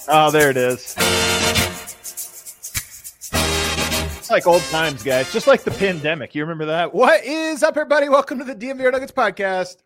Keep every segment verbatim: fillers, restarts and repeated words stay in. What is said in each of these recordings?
Oh, there it is. It's like old times, guys. Just like the pandemic. You remember that? What is up, everybody? Welcome to the D M V R Nuggets podcast.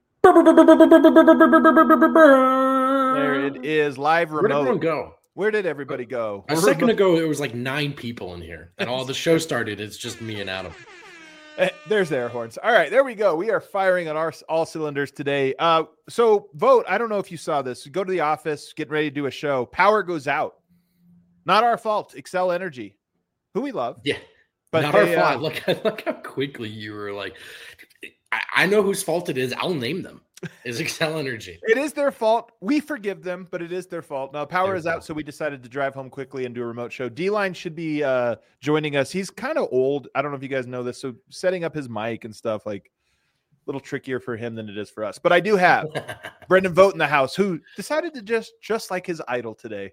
There it is, live remote. Where'd everyone go? Where did everybody go? A second ago, it was like nine people in here. And all the show started, it's just me and Adam. There's the air horns. All right, there we go. We are firing on our all cylinders today. Uh, so, Vote, I don't know if you saw this. Go to the office, getting ready to do a show. Power goes out. Not our fault. Xcel Energy, who we love. Yeah, but not they, our uh, fault. Look, look how quickly you were like, I, I know whose fault it is. I'll name them. It's Xcel Energy. It is their fault. We forgive them, but it is their fault. Now, power Their is fault. out, so we decided to drive home quickly and do a remote show. D-Line should be uh, joining us. He's kind of old. I don't know if you guys know this, so setting up his mic and stuff, like, a little trickier for him than it is for us. But I do have Brendan Vogt in the house, who decided to just just like his idol today.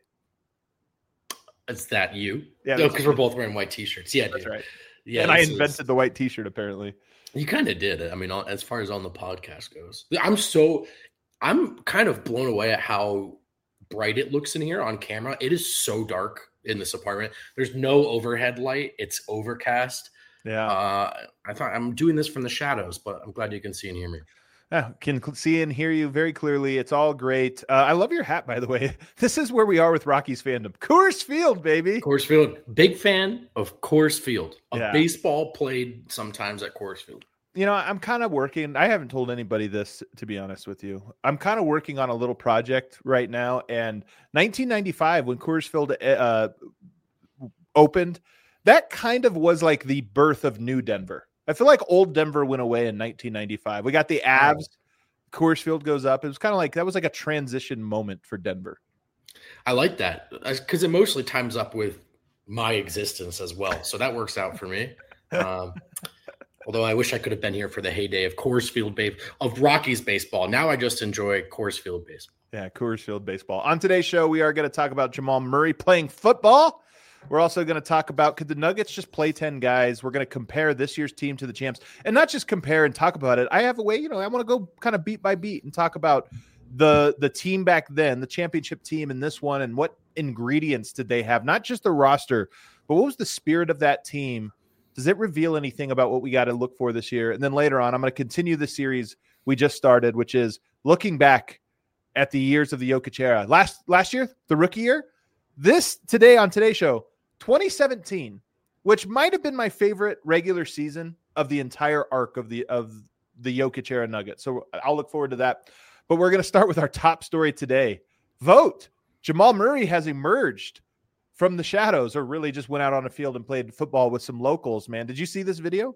Is that you? Yeah, No, that's because we're both wearing white t-shirts. Yeah, That's dude. right. Yeah, and I this is- invented the white T-shirt, apparently. You kind of did. I mean, on- as far as on the podcast goes, I'm so, I'm kind of blown away at how bright it looks in here on camera. It is so dark in this apartment. There's no overhead light. It's overcast. Yeah. Uh, I thought I'm doing this from the shadows, but I'm glad you can see and hear me. Yeah, can cl- see and hear you very clearly. It's all great. Uh, I love your hat, by the way. This is where we are with Rockies fandom. Coors Field, baby. Coors Field, big fan of Coors Field. Of Yeah. baseball played sometimes at Coors Field. You know, I'm kind of working. I haven't told anybody this, to be honest with you. I'm kind of working on a little project right now. And nineteen ninety-five, when Coors Field uh, opened, that kind of was like the birth of new Denver. I feel like old Denver went away in nineteen ninety-five. We got the Avs. Coors Field goes up. It was kind of like that was like a transition moment for Denver. I like that because it mostly times up with my existence as well. So that works out for me. Um, although I wish I could have been here for the heyday of Coors Field base of Rockies baseball. Now I just enjoy Coors Field baseball. Yeah, Coors Field baseball. On today's show, we are going to talk about Jamal Murray playing football. We're also going to talk about, could the Nuggets just play ten guys? We're going to compare this year's team to the champs, and not just compare and talk about it. I have a way, you know, I want to go kind of beat by beat and talk about the the team back then, the championship team in this one, and what ingredients did they have? Not just the roster, but what was the spirit of that team? Does it reveal anything about what we got to look for this year? And then later on, I'm going to continue the series we just started, which is looking back at the years of the Jokic era. Last last year, the rookie year. This today on today's show, twenty seventeen, which might have been my favorite regular season of the entire arc of the of the Jokic era Nuggets. So I'll look forward to that. But we're going to start with our top story today. Vote. Jamal Murray has emerged from the shadows, or really just went out on the field and played football with some locals, man. Did you see this video?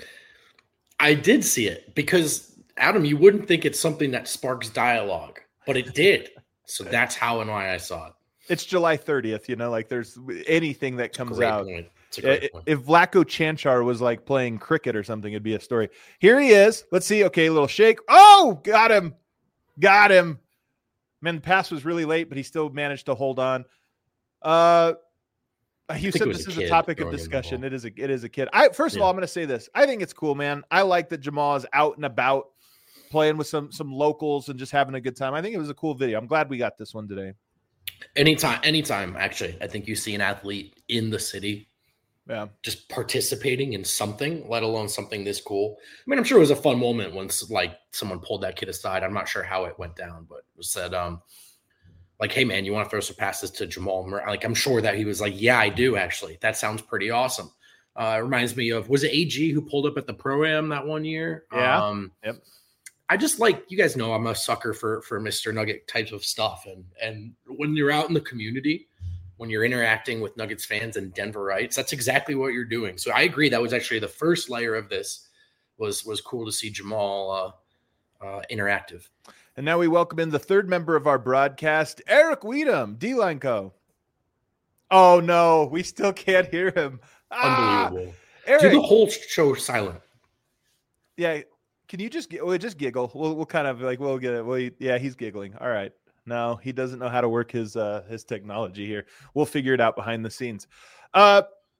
I did see it because, Adam, you wouldn't think it's something that sparks dialogue, but it did. So that's how and why I saw it. It's July thirtieth, you know, like there's anything that comes Great out. point. It's a great If point. if Vlatko Chanchar was like playing cricket or something, it'd be a story. Here he is. Let's see. Okay, a little shake. Oh, got him. Got him. Man, the pass was really late, but he still managed to hold on. Uh, you think said it was this a is a kid topic of throwing him the discussion. ball. It is a it is a kid. I first of Yeah. all, I'm going to say this. I think it's cool, man. I like that Jamal is out and about, playing with some some locals and just having a good time. I think it was a cool video. I'm glad we got this one today. Anytime, anytime, actually, I think you see an athlete in the city Yeah. just participating in something, let alone something this cool. I mean, I'm sure it was a fun moment once like someone pulled that kid aside. I'm not sure how it went down, but it was said, um, like, hey man, you want to throw some passes to Jamal Murray? Like, I'm sure that he was like, yeah, I do actually. That sounds pretty awesome. Uh, it reminds me of, was it A G who pulled up at the Pro-Am that one year? Yeah. Um, Yep. I just like, you guys know I'm a sucker for for Mister Nugget types of stuff. And and when you're out in the community, when you're interacting with Nuggets fans and Denverites, that's exactly what you're doing. So I agree. That was actually the first layer of this was was cool to see Jamal uh, uh, interactive. And now we welcome in the third member of our broadcast, Eric Weedham, D-Line Co. Oh no, we still can't hear him. Ah, Unbelievable. Eric, Do the whole show silent. yeah. Can you just we'll just giggle? We'll we'll kind of like we'll get it. Well, yeah, he's giggling. All right. No, he doesn't know how to work his uh his technology here. We'll figure it out behind the scenes. Uh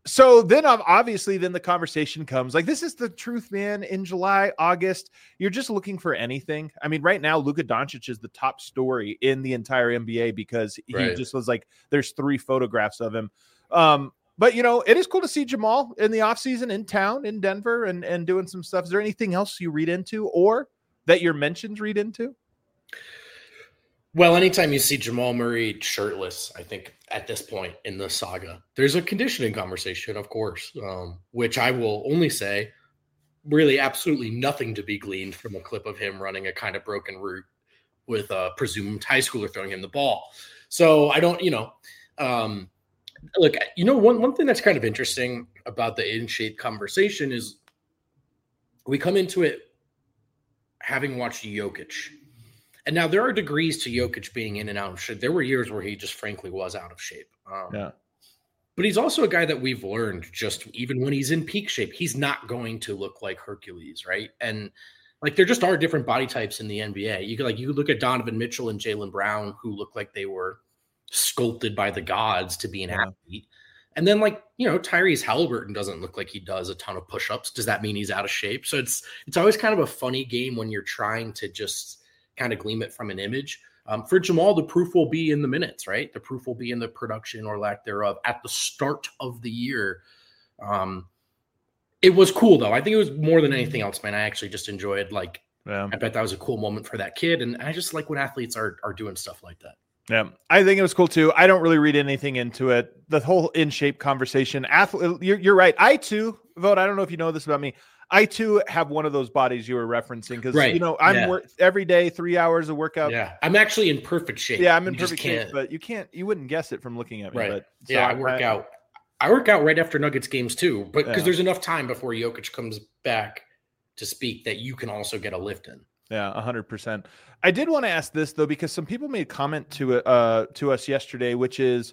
so then obviously then the conversation comes like, this is the truth, man. In July, August, you're just looking for anything. I mean, right now, Luka Doncic is the top story in the entire N B A because he Right. just was like, there's three photographs of him. Um, but, you know, it is cool to see Jamal in the offseason in town in Denver and, and doing some stuff. Is there anything else you read into or that your mentions read into? Well, anytime you see Jamal Murray shirtless, I think at this point in the saga, there's a conditioning conversation, of course, um, which I will only say really absolutely nothing to be gleaned from a clip of him running a kind of broken route with a presumed high schooler throwing him the ball. So I don't, you know, um, look, you know, one, one thing that's kind of interesting about the in-shape conversation is we come into it having watched Jokic. And now there are degrees to Jokic being in and out of shape. There were years where he just frankly was out of shape. Um, Yeah. But he's also a guy that we've learned just even when he's in peak shape, he's not going to look like Hercules, right? And like there just are different body types in the N B A. You could like you look at Donovan Mitchell and Jaylen Brown, who look like they were sculpted by the gods to be an Yeah. athlete. And then like, you know, Tyrese Halliburton doesn't look like he does a ton of push-ups. Does that mean he's out of shape? So it's it's always kind of a funny game when you're trying to just kind of glean it from an image. Um, for Jamal, the proof will be in the minutes, right? The proof will be in the production or lack thereof at the start of the year. Um, it was cool, though. I think it was more than anything else, man. I actually just enjoyed, like, Yeah. I bet that was a cool moment for that kid. And I just like when athletes are are doing stuff like that. Yeah, I think it was cool too. I don't really read anything into it. The whole in shape conversation. Athlete, you're, you're right. I too, Vote. I don't know if you know this about me. I too have one of those bodies you were referencing because Right. you know I'm Yeah. work every day, three hours of workout. Yeah, I'm actually in perfect shape. Yeah, I'm in You just perfect shape, can't- but you can't, you wouldn't guess it from looking at me. Right. But so yeah, I work out. I work out right after Nuggets games too, but because Yeah. there's enough time before Jokic comes back to speak that you can also get a lift in. Yeah, a hundred percent. I did want to ask this though, because some people made comment to it uh, to us yesterday, which is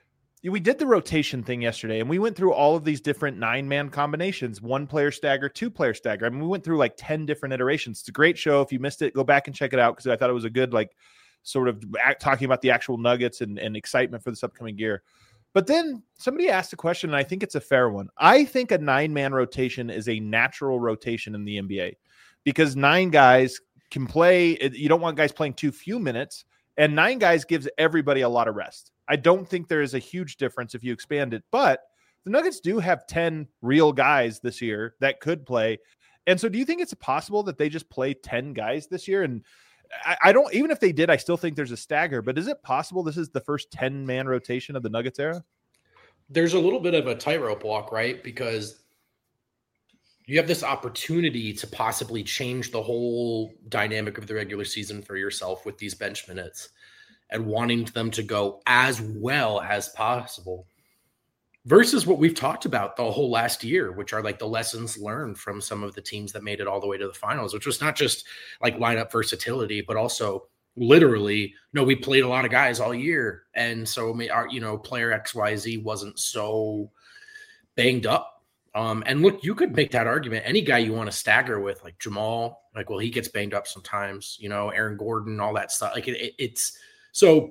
we did the rotation thing yesterday, and we went through all of these different nine man combinations: one player stagger, two player stagger. I mean, we went through like ten different iterations. It's a great show. If you missed it, go back and check it out because I thought it was a good like sort of act, talking about the actual Nuggets and, and excitement for this upcoming year. But then somebody asked a question, and I think it's a fair one. I think a nine man rotation is a natural rotation in the N B A because nine guys can play. You don't want guys playing too few minutes, and nine guys gives everybody a lot of rest. I don't think there is a huge difference if you expand it, but the Nuggets do have ten real guys this year that could play. And so do you think it's possible that they just play ten guys this year? And I, I don't, even if they did, I still think there's a stagger, but is it possible this is the first ten man rotation of the Nuggets era? There's a little bit of a tightrope walk, right? Because you have this opportunity to possibly change the whole dynamic of the regular season for yourself with these bench minutes and wanting them to go as well as possible versus what we've talked about the whole last year, which are like the lessons learned from some of the teams that made it all the way to the finals, which was not just like lineup versatility, but also literally, no, we played a lot of guys all year. And so, our, you know, player X Y Z wasn't so banged up. Um, and look, you could make that argument. Any guy you want to stagger with, like Jamal, like, well, he gets banged up sometimes, you know, Aaron Gordon, all that stuff. Like it, it, it's so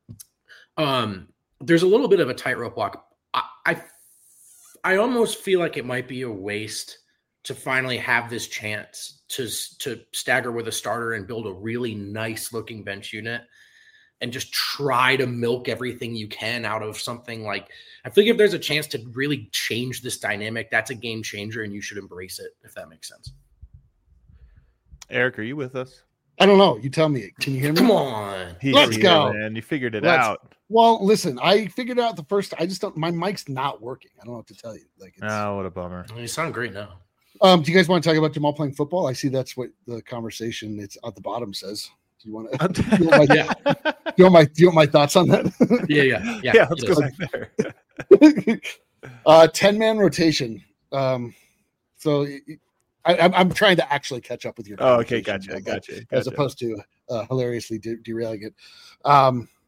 um, there's a little bit of a tightrope walk. I, I, I almost feel like it might be a waste to finally have this chance to, to stagger with a starter and build a really nice looking bench unit and just try to milk everything you can out of something. Like, I feel like if there's a chance to really change this dynamic, that's a game changer and you should embrace it, if that makes sense. Eric, are you with us? I don't know. You tell me. Can you hear me? Come on. He's Let's here, go. Man. You figured it Let's- out. Well, listen, I figured out the first. I just don't. My mic's not working. I don't know what to tell you. Like, it's, Oh, what a bummer. You sound great now. um, do you guys want to talk about Jamal playing football? I see that's what the conversation it's at the bottom says. Do you want to? Do you want my, Yeah. do you want my, do you want my thoughts on that? Yeah, yeah, yeah. Yeah, let's it go is. back there. uh, ten man rotation. Um, so I, I'm, I'm trying to actually catch up with your. Oh, okay, conversation, gotcha, uh, gotcha, As gotcha. opposed to uh, hilariously de- derailing it. Um,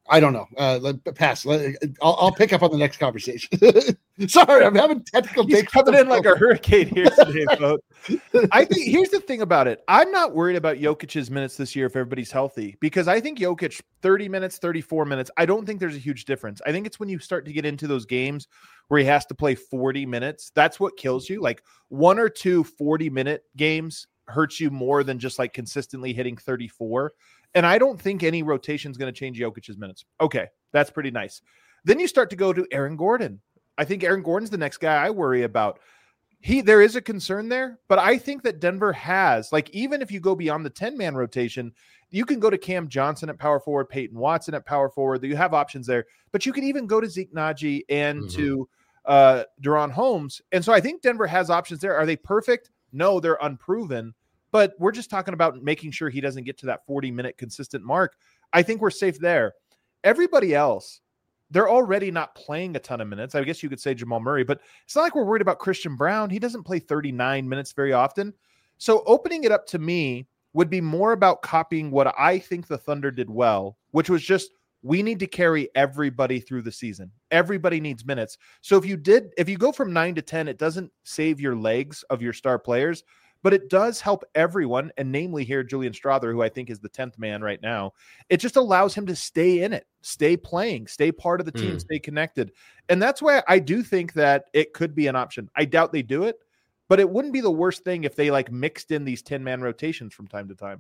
I don't know. Uh, let, pass. Let, I'll, I'll pick up on the next conversation. Sorry, I'm having technical. He's coming in like a hurricane here today, folks. I think here's the thing about it. I'm not worried about Jokic's minutes this year if everybody's healthy, because I think Jokic thirty minutes, thirty-four minutes. I don't think there's a huge difference. I think it's when you start to get into those games where he has to play forty minutes. That's what kills you. Like one or two forty minute games hurts you more than just like consistently hitting thirty-four. And I don't think any rotation is going to change Jokic's minutes. Okay, that's pretty nice. Then you start to go to Aaron Gordon. I think Aaron Gordon's the next guy I worry about. He, there is a concern there, but I think that Denver has, like, even if you go beyond the ten-man rotation, you can go to Cam Johnson at power forward, Peyton Watson at power forward. You have options there, but you can even go to Zeke Naji and mm-hmm. to uh, De'Ron Holmes. And so I think Denver has options there. Are they perfect? No, they're unproven. But we're just talking about making sure he doesn't get to that forty-minute consistent mark. I think we're safe there. Everybody else, they're already not playing a ton of minutes. I guess you could say Jamal Murray, but it's not like we're worried about Christian Brown. He doesn't play thirty-nine minutes very often. So opening it up to me would be more about copying what I think the Thunder did well, which was just we need to carry everybody through the season. Everybody needs minutes. So if you did, if you go from nine to ten, it doesn't save your legs of your star players, but it does help everyone, and namely here, Julian Strawther, who I think is the tenth man right now. It just allows him to stay in it, stay playing, stay part of the team, mm. stay connected. And that's why I do think that it could be an option. I doubt they do it, but it wouldn't be the worst thing if they like mixed in these ten-man rotations from time to time.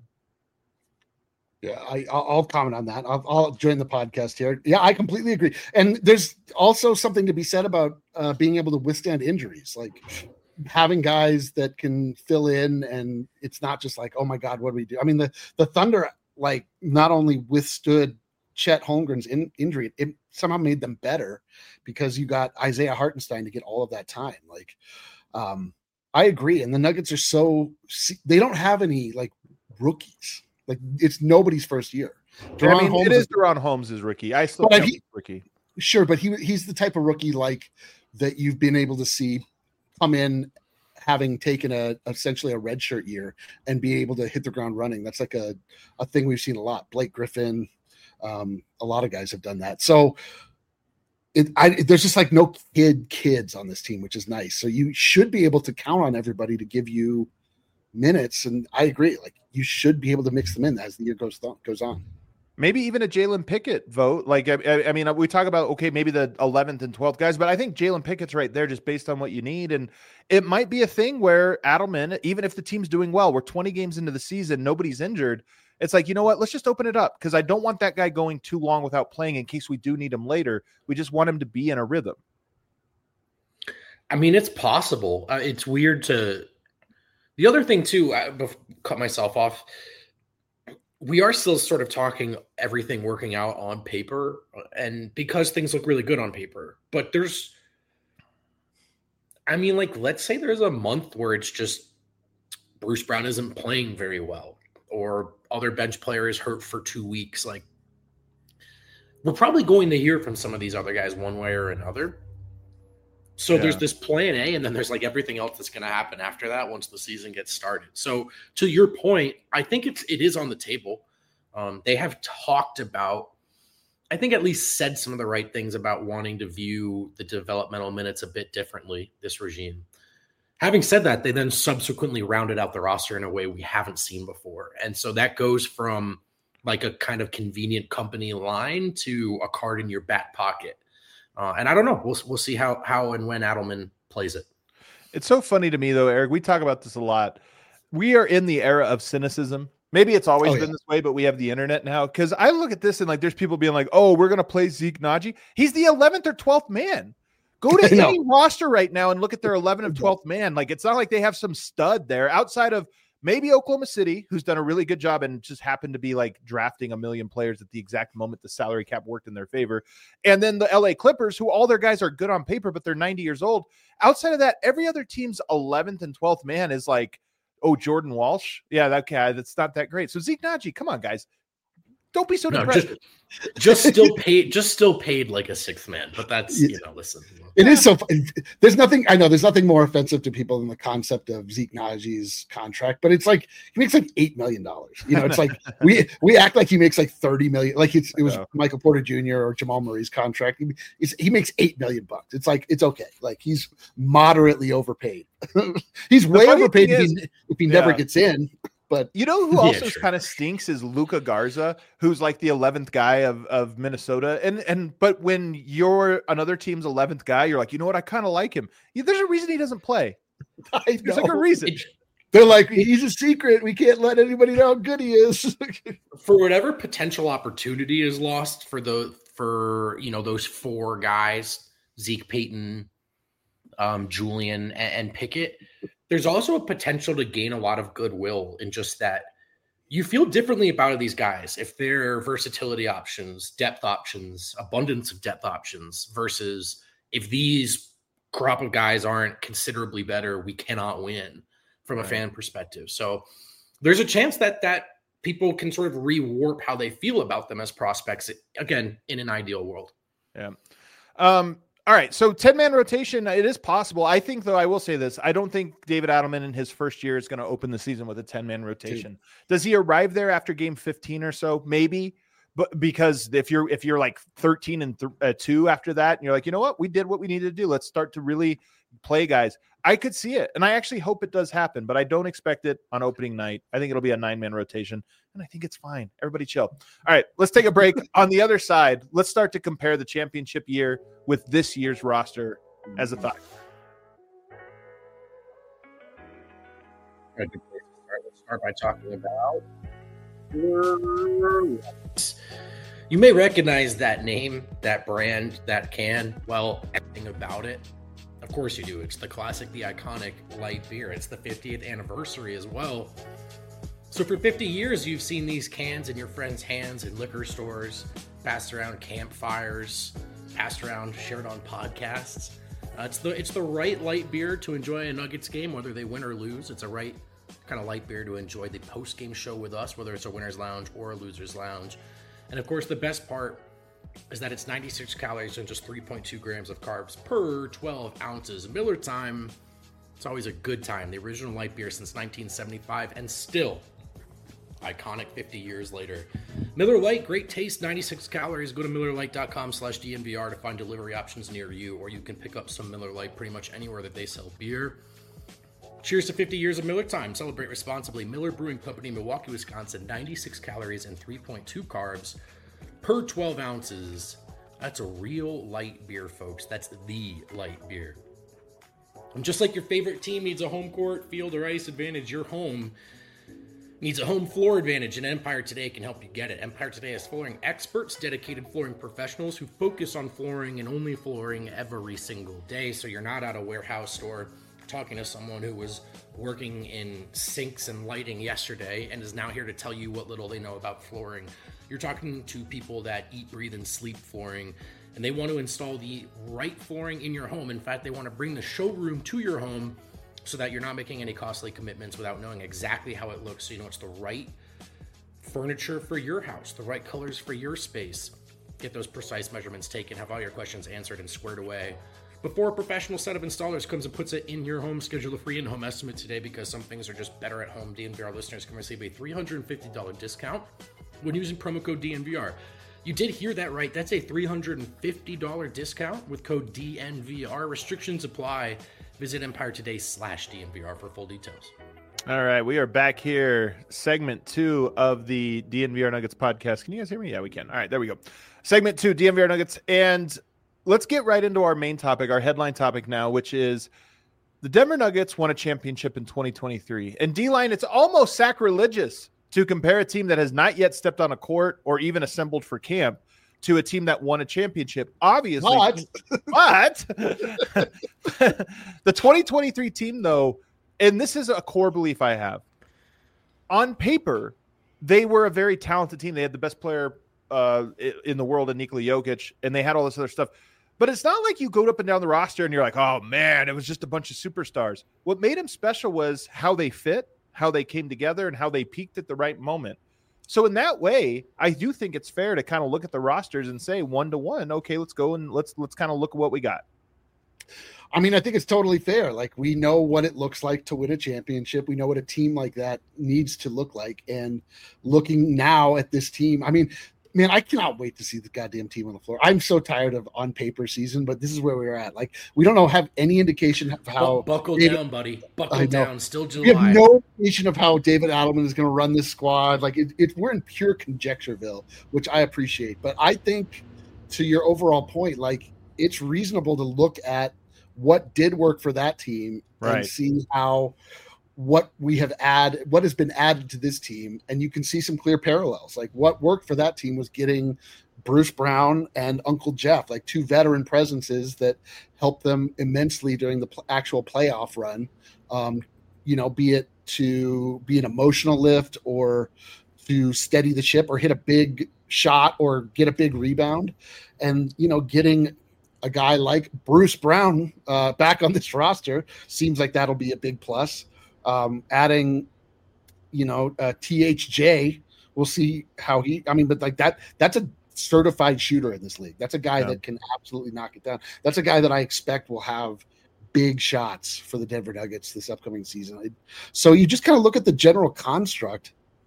Yeah, I, I'll comment on that. I'll, I'll join the podcast here. Yeah, I completely agree. And there's also something to be said about uh, being able to withstand injuries. Like, having guys that can fill in, and it's not just like, oh my God, what do we do? I mean, the, the Thunder, like, not only withstood Chet Holmgren's in, injury, it somehow made them better because you got Isaiah Hartenstein to get all of that time. Like, um, I agree. And the Nuggets are so, they don't have any like rookies. Like, it's nobody's first year. I mean, Holmes it is De'Ron Holmes is rookie. I still think he's rookie. Sure, but he he's the type of rookie like that you've been able to see come in having taken a essentially a redshirt year and be able to hit the ground running. That's like a, a thing we've seen a lot. Blake Griffin, um, a lot of guys have done that. So it, I, there's just like no kid kids on this team, which is nice. So you should be able to count on everybody to give you minutes. And I agree. Like, you should be able to mix them in as the year goes th- goes on. Maybe even a Jalen Pickett vote. Like, I, I mean, we talk about, okay, maybe the eleventh and twelfth guys, but I think Jalen Pickett's right there just based on what you need. And it might be a thing where Adelman, even if the team's doing well, we're twenty games into the season, nobody's injured. It's like, you know what, let's just open it up because I don't want that guy going too long without playing in case we do need him later. We just want him to be in a rhythm. I mean, it's possible. Uh, it's weird to – the other thing too, I cut myself off – we are still sort of talking everything working out on paper, and because things look really good on paper, but there's, I mean, like, let's say there's a month where it's just Bruce Brown isn't playing very well, or other bench player is hurt for two weeks. Like, we're probably going to hear from some of these other guys one way or another. So yeah. There's this plan A, and then there's like everything else that's going to happen after that once the season gets started. So to your point, I think it's it is on the table. Um, they have talked about, I think at least said some of the right things about wanting to view the developmental minutes a bit differently, this regime. Having said that, they then subsequently rounded out the roster in a way we haven't seen before. And so that goes from like a kind of convenient company line to a card in your back pocket. Uh, and I don't know. We'll we'll see how how and when Adelman plays it. It's so funny to me, though, Eric. We talk about this a lot. We are in the era of cynicism. Maybe it's always oh, been yeah. this way, but we have the internet now. Because I look at this and like, there's people being like, "Oh, we're gonna play Zeke Naji. He's the eleventh or twelfth man. Go to any roster right now and look at their eleventh or twelfth man. Like, it's not like they have some stud there outside of maybe Oklahoma City, who's done a really good job and just happened to be like drafting a million players at the exact moment the salary cap worked in their favor. And then the L A Clippers, who all their guys are good on paper, but they're ninety years old. Outside of that, every other team's eleventh and twelfth man is like, oh, Jordan Walsh. Yeah, that guy, that's not that great. So Zeke Naji, come on, guys. Don't be so No, depressed. just, just still paid, just still paid like a sixth man. But that's you know, listen. It is so. There's nothing. I know there's nothing more offensive to people than the concept of Zeke Najee's contract. But it's like he makes like eight million dollars. You know, it's like we we act like he makes like thirty million. Like it's it was Michael Porter Junior or Jamal Murray's contract. He, he's, he makes eight million bucks. It's like it's okay. Like he's moderately overpaid. He's way overpaid if, is, he, if he yeah. never gets in. But you know who also yeah, sure. kind of stinks is Luka Garza, who's like the eleventh guy of, of Minnesota. And and but when you're another team's eleventh guy, you're like, you know what? I kind of like him. There's a reason he doesn't play. I There's like a reason. They're like, he's a secret. We can't let anybody know how good he is. For whatever potential opportunity is lost for the for you know those four guys, Zeke, Peyton, um, Julian, and, and Pickett. There's also a potential to gain a lot of goodwill in just that you feel differently about these guys if they're versatility options, depth options, abundance of depth options versus if these crop of guys aren't considerably better, we cannot win from a fan perspective. So there's a chance that that people can sort of rewarp how they feel about them as prospects, again, in an ideal world. Yeah. Um, All right, so ten-man rotation, it is possible. I think, though, I will say this. I don't think David Adelman in his first year is going to open the season with a ten-man rotation. Dude. Does he arrive there after game fifteen or so? Maybe. But because if you're if you're like thirteen and th- uh, two after that, and you're like, you know what? We did what we needed to do. Let's start to really play guys. I could see it, and I actually hope it does happen, but I don't expect it on opening night. I think it'll be a nine-man rotation, and I think it's fine. Everybody chill. All right, let's take a break. On the other side, let's start to compare the championship year with this year's roster as a thought. Let's start by talking about. You may recognize that name, that brand, that can. Well, everything about it. Of course you do. It's the classic, the iconic light beer. It's the fiftieth anniversary as well. So for fifty years, you've seen these cans in your friends' hands in liquor stores, passed around campfires, passed around, shared on podcasts. Uh, it's the it's the right light beer to enjoy a Nuggets game, whether they win or lose. It's a right kind of light beer to enjoy the post-game show with us, whether it's a winner's lounge or a loser's lounge. And of course, the best part is that it's ninety-six calories and just three point two grams of carbs per twelve ounces. Miller Time, it's always a good time. The original light beer since nineteen seventy-five and still iconic fifty years later. Miller Lite, great taste, ninety-six calories. Go to MillerLite.com slash DNVR to find delivery options near you, or you can pick up some Miller Lite pretty much anywhere that they sell beer. Cheers to fifty years of Miller Time. Celebrate responsibly. Miller Brewing Company, Milwaukee, Wisconsin, ninety-six calories and three point two carbs per twelve ounces. That's a real light beer, folks. That's the light beer. And just like your favorite team needs a home court, field, or ice advantage, your home needs a home floor advantage, and Empire Today can help you get it. Empire Today has flooring experts, dedicated flooring professionals who focus on flooring and only flooring every single day, so you're not at a warehouse store talking to someone who was working in sinks and lighting yesterday and is now here to tell you what little they know about flooring. You're talking to people that eat, breathe, and sleep flooring, and they want to install the right flooring in your home. In fact, they want to bring the showroom to your home so that you're not making any costly commitments without knowing exactly how it looks, so you know it's the right furniture for your house, the right colors for your space. Get those precise measurements taken, have all your questions answered and squared away before a professional set of installers comes and puts it in your home. Schedule a free in-home estimate today, because some things are just better at home. D N V R listeners can receive a three hundred fifty dollars discount when using promo code D N V R. You did hear that right. That's a three hundred fifty dollars discount with code D N V R. Restrictions apply. Visit Empire Today slash D N V R for full details. All right, we are back here. Segment two of the D N V R Nuggets podcast. Can you guys hear me? Yeah, we can. All right, there we go. Segment two, D N V R Nuggets. And let's get right into our main topic, our headline topic now, which is the Denver Nuggets won a championship in twenty twenty-three. And D-Line, it's almost sacrilegious to compare a team that has not yet stepped on a court or even assembled for camp to a team that won a championship. Obviously, but, but the twenty twenty-three team, though, and this is a core belief I have, on paper, they were a very talented team. They had the best player uh, in the world in Nikola Jokic, and they had all this other stuff. But it's not like you go up and down the roster and you're like, oh, man, it was just a bunch of superstars. What made them special was how they fit, how they came together, and how they peaked at the right moment. So in that way, I do think it's fair to kind of look at the rosters and say one to one, okay, let's go and let's let's kind of look at what we got. I mean, I think it's totally fair. Like, we know what it looks like to win a championship. We know what a team like that needs to look like. And looking now at this team, I mean, man, I cannot wait to see the goddamn team on the floor. I'm so tired of on paper season, but this is where we're at. Like, we don't know, have any indication of how. Buckle David, down, buddy. Buckle down. Still July. We have no indication of how David Adelman is going to run this squad. Like, it, it, we're in pure conjectureville, which I appreciate. But I think, to your overall point, like, it's reasonable to look at what did work for that team right. and see how what we have added, what has been added to this team. And you can see some clear parallels. Like, what worked for that team was getting Bruce Brown and Uncle Jeff, like two veteran presences that helped them immensely during the pl- actual playoff run. Um, you know, be it to be an emotional lift or to steady the ship or hit a big shot or get a big rebound. And, you know, getting a guy like Bruce Brown uh, back on this roster seems like that'll be a big plus. Um, adding, you know, uh, T H J, we'll see how he. I mean, but like that, that's a certified shooter in this league. That's a guy yeah. that can absolutely knock it down. That's a guy that I expect will have big shots for the Denver Nuggets this upcoming season. So you just kind of look at the general construct.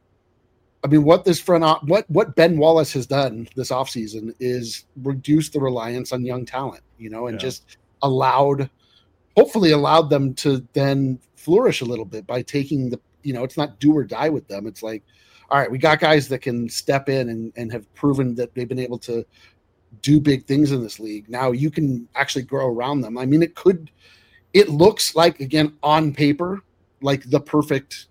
I mean, what this front, what what Ben Wallace has done this offseason is reduce the reliance on young talent, you know, and yeah. just allowed, hopefully allowed them to then flourish a little bit by taking the, you know, it's not do or die with them. It's like, all right, we got guys that can step in and, and have proven that they've been able to do big things in this league. Now you can actually grow around them. I mean, it could, it looks like, again, on paper, like the perfect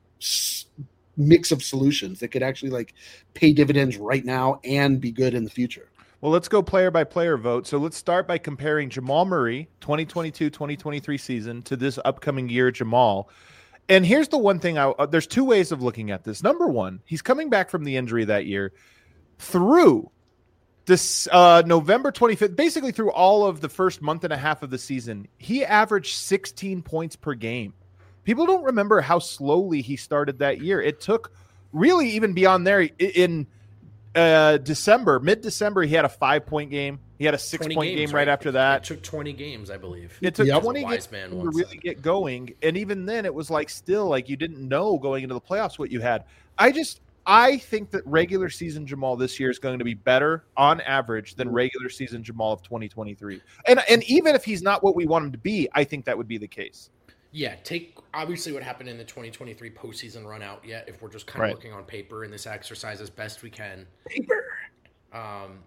mix of solutions that could actually like pay dividends right now and be good in the future. Well, let's go player by player vote. So let's start by comparing Jamal Murray twenty twenty-two twenty twenty-three season to this upcoming year Jamal. And here's the one thing I uh, there's two ways of looking at this. Number one, he's coming back from the injury that year through this uh, November twenty-fifth, basically through all of the first month and a half of the season. He averaged sixteen points per game. People don't remember how slowly he started that year. It took really even beyond there in uh, December, mid-December, he had a five-point game. He had a six-point game right, right after that. It took twenty games, I believe. It took yep. twenty games to really get going. And even then, it was like still like you didn't know going into the playoffs what you had. I just I think that regular season Jamal this year is going to be better on average than regular season Jamal of twenty twenty-three. And and even if he's not what we want him to be, I think that would be the case. Yeah, take obviously what happened in the twenty twenty-three postseason run out yet, if we're just kind of right. looking on paper in this exercise as best we can. Paper. Um,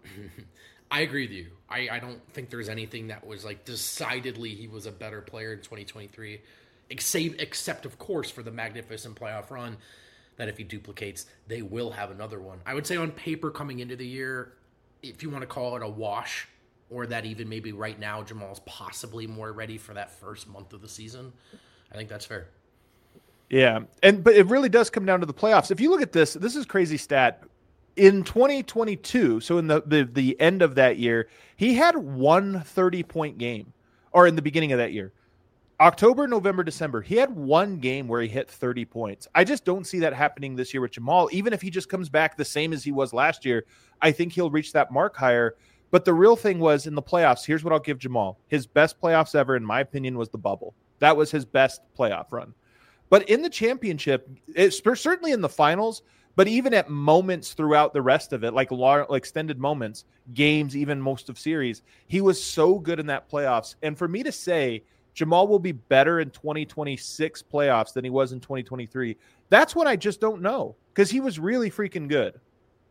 I agree with you. I, I don't think there's anything that was like decidedly he was a better player in twenty twenty-three, except, except of course, for the magnificent playoff run that if he duplicates, they will have another one. I would say on paper coming into the year, if you want to call it a wash, or that even maybe right now Jamal's possibly more ready for that first month of the season. I think that's fair. Yeah, and but it really does come down to the playoffs. If you look at this, this is a crazy stat. In twenty twenty-two, so in the, the, the end of that year, he had one thirty-point game, or in the beginning of that year. October, November, December, he had one game where he hit thirty points. I just don't see that happening this year with Jamal. Even if he just comes back the same as he was last year, I think he'll reach that mark higher. But the real thing was in the playoffs, here's what I'll give Jamal. His best playoffs ever, in my opinion, was the bubble. That was his best playoff run. But in the championship, it's certainly in the finals, but even at moments throughout the rest of it, like long, extended moments, games, even most of series, he was so good in that playoffs. And for me to say Jamal will be better in twenty twenty-six playoffs than he was in twenty twenty-three, that's when I just don't know, because he was really freaking good.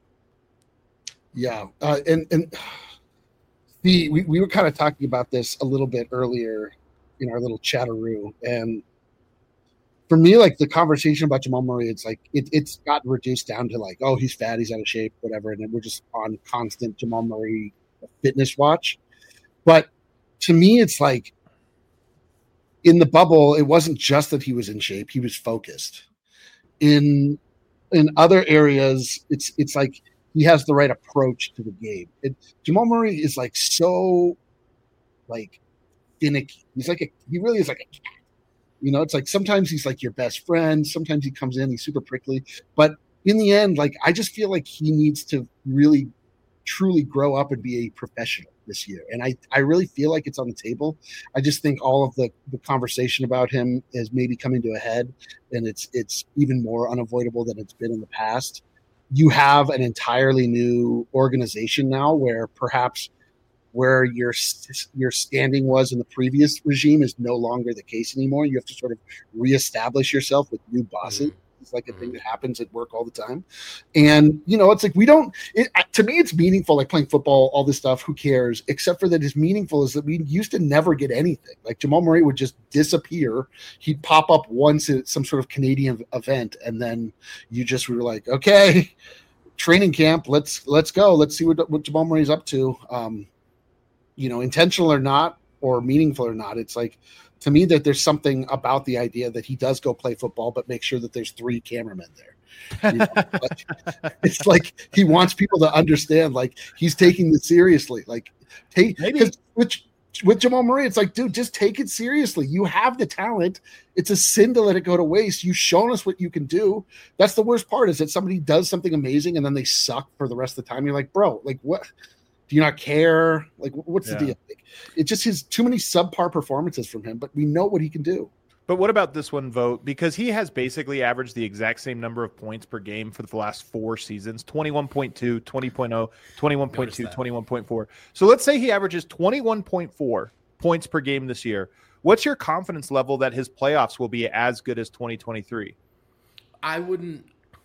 Yeah, uh, and and the we, we were kind of talking about this a little bit earlier in our little chatteroo, and for me, like the conversation about Jamal Murray, it's like it, it's gotten reduced down to like, oh, he's fat, he's out of shape, whatever, and then we're just on constant Jamal Murray fitness watch. But to me, it's like in the bubble, it wasn't just that he was in shape; he was focused. In in other areas, it's it's like he has the right approach to the game. It, Jamal Murray is like so, like finicky. He's like a he really is like a cat. You know, it's like sometimes he's like your best friend. Sometimes he comes in, he's super prickly. But in the end, like I just feel like he needs to really truly grow up and be a professional this year. And I, I really feel like it's on the table. I just think all of the, the conversation about him is maybe coming to a head, and it's it's even more unavoidable than it's been in the past. You have an entirely new organization now where perhaps where your your standing was in the previous regime is no longer the case anymore. You have to sort of reestablish yourself with new bosses. Mm-hmm. It's like a thing that happens at work all the time. And, you know, it's like we don't it, to me, it's meaningful, like playing football, all this stuff. Who cares? Except for that is meaningful is that we used to never get anything. Like Jamal Murray would just disappear. He'd pop up once at some sort of Canadian event. And then you just were like, okay, training camp, let's let's go. Let's see what, what Jamal Murray's up to. Um, you know, intentional or not, or meaningful or not. It's like, to me, that there's something about the idea that he does go play football, but make sure that there's three cameramen there. You know? Like, it's like he wants people to understand, like he's taking this seriously. Like, take because with, with Jamal Murray, it's like, dude, just take it seriously. You have the talent. It's a sin to let it go to waste. You've shown us what you can do. That's the worst part, is that somebody does something amazing and then they suck for the rest of the time. You're like, bro, like what? Do you not care? Like, what's yeah. the deal? Like, it just has too many subpar performances from him, but we know what he can do. But what about this one, Vogt? Because he has basically averaged the exact same number of points per game for the last four seasons, twenty-one point two, twenty point oh, twenty-one point two, twenty-one point four. So let's say he averages twenty-one point four points per game this year. What's your confidence level that his playoffs will be as good as twenty twenty-three? I wouldn't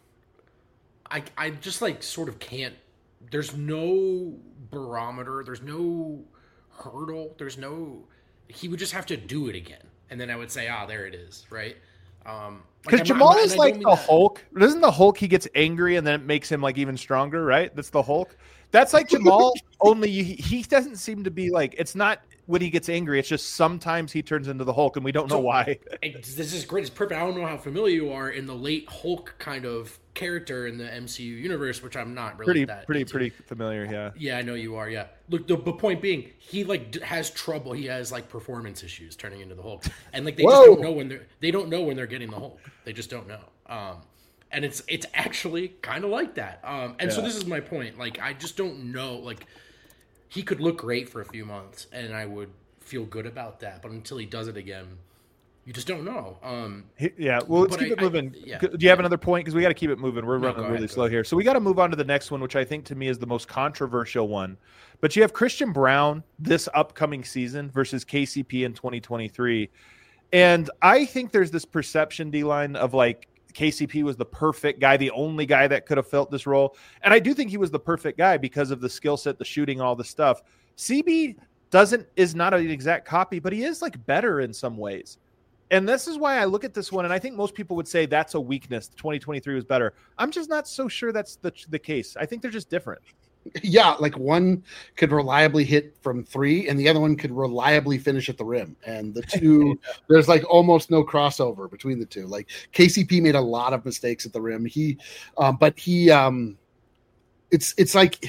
I I just like sort of can't. There's no barometer. There's no hurdle. There's no. He would just have to do it again, and then I would say, "Ah, there it is." Right? Um, because like, Jamal not, is like the that. Hulk. Doesn't the Hulk? He gets angry, and then it makes him like even stronger. Right? That's the Hulk. That's like Jamal. Only he, he doesn't seem to be like. It's not when he gets angry. It's just sometimes he turns into the Hulk, and we don't know so, why. This is great. It's perfect. I don't know how familiar you are in the late Hulk kind of character in the M C U universe, which I'm not really pretty, that pretty, into. pretty familiar. Yeah, yeah, I know you are. Yeah, look, the, the point being, he like has trouble. He has like performance issues turning into the Hulk, and like they Whoa. just don't know when they're they don't know when they're getting the Hulk. They just don't know. Um, and it's it's actually kind of like that. Um, and yeah. so this is my point. Like I just don't know. Like he could look great for a few months, and I would feel good about that. But until he does it again, you just don't know. Um, yeah, well, let's keep I, it moving. I, yeah. Do you have another point? Because we got to keep it moving. We're no, running really ahead, slow here. So we got to move on to the next one, which I think to me is the most controversial one. But you have Christian Braun this upcoming season versus K C P in twenty twenty-three. And I think there's this perception, D-Line, of like K C P was the perfect guy, the only guy that could have filled this role. And I do think he was the perfect guy because of the skill set, the shooting, all the stuff. C B doesn't is not an exact copy, but he is like better in some ways. And this is why I look at this one, and I think most people would say that's a weakness. twenty twenty-three was better. I'm just not so sure that's the the case. I think they're just different. Yeah, like one could reliably hit from three, and the other one could reliably finish at the rim. And the two, there's like almost no crossover between the two. Like K C P made a lot of mistakes at the rim. He, um, but he, um, it's it's like.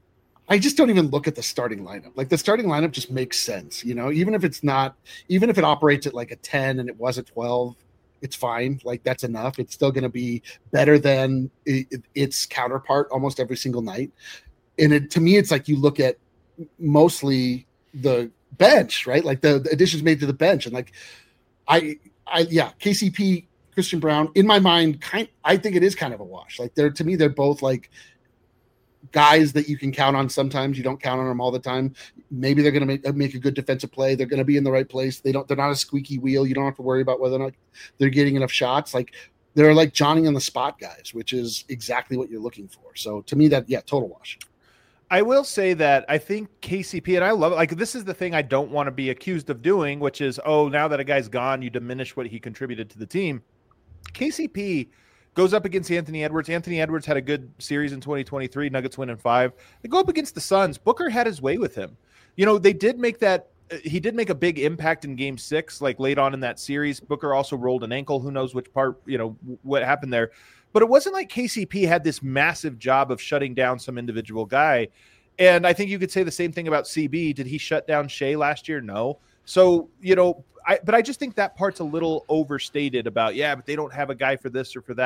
I just don't even look at the starting lineup. Like the starting lineup just makes sense, you know, even if it's not, even if it operates at like a ten and it was a twelve, it's fine. Like that's enough. It's still going to be better than it, its counterpart almost every single night. And it, to me, it's like you look at mostly the bench, right? Like the, the additions made to the bench. And like, I, I, yeah, K C P, Christian Braun, in my mind, kind, I think it is kind of a wash. Like they're, to me, they're both like, guys that you can count on sometimes. You don't count on them all the time. Maybe they're going to make, make a good defensive play. They're going to be in the right place. They don't, they're not a squeaky wheel. You don't have to worry about whether or not they're getting enough shots. Like they're like Johnny on the spot guys, which is exactly what you're looking for. So to me that, yeah, total wash. I will say that I think K C P, and I love it. Like this is the thing I don't want to be accused of doing, which is, oh, now that a guy's gone, you diminish what he contributed to the team. K C P goes up against Anthony Edwards. Anthony Edwards had a good series in twenty twenty-three. Nuggets win in five. They go up against the Suns. Booker had his way with him. You know, they did make that – he did make a big impact in game six, like late on in that series. Booker also rolled an ankle. Who knows which part, you know, what happened there. But it wasn't like K C P had this massive job of shutting down some individual guy. And I think you could say the same thing about C B. Did he shut down Shea last year? No. So, you know, I, but I just think that part's a little overstated about, yeah, but they don't have a guy for this or for that.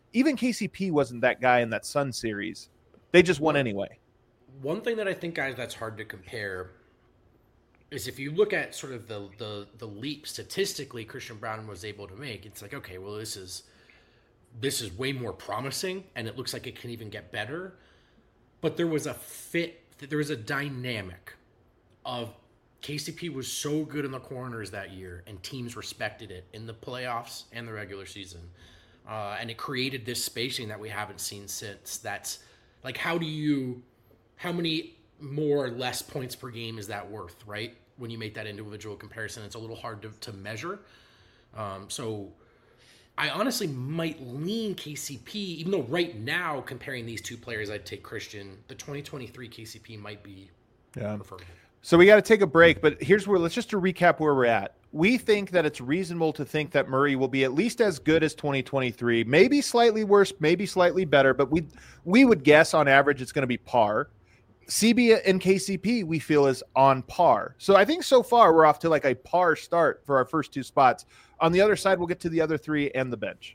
even K C P wasn't that guy in that Sun series. They just won anyway. One thing that I think, guys, that's hard to compare is if you look at sort of the the the leap statistically Christian Braun was able to make. It's like, okay, well, this is this is way more promising, and it looks like it can even get better. But there was a fit, there was a dynamic of K C P was so good in the corners that year, and teams respected it in the playoffs and the regular season. Uh, and it created this spacing that we haven't seen since. That's like, how do you, how many more or less points per game is that worth, right? When you make that individual comparison, it's a little hard to, to measure. Um, so I honestly might lean K C P, even though right now, comparing these two players, I'd take Christian. The twenty twenty-three K C P might be yeah. preferable. So we got to take a break, but here's where, let's just to recap where we're at. We think that it's reasonable to think that Murray will be at least as good as twenty twenty-three, maybe slightly worse, maybe slightly better, but we we would guess on average it's going to be par. C B and K C P we feel is on par. So I think so far we're off to like a par start for our first two spots. On the other side, we'll get to the other three and the bench.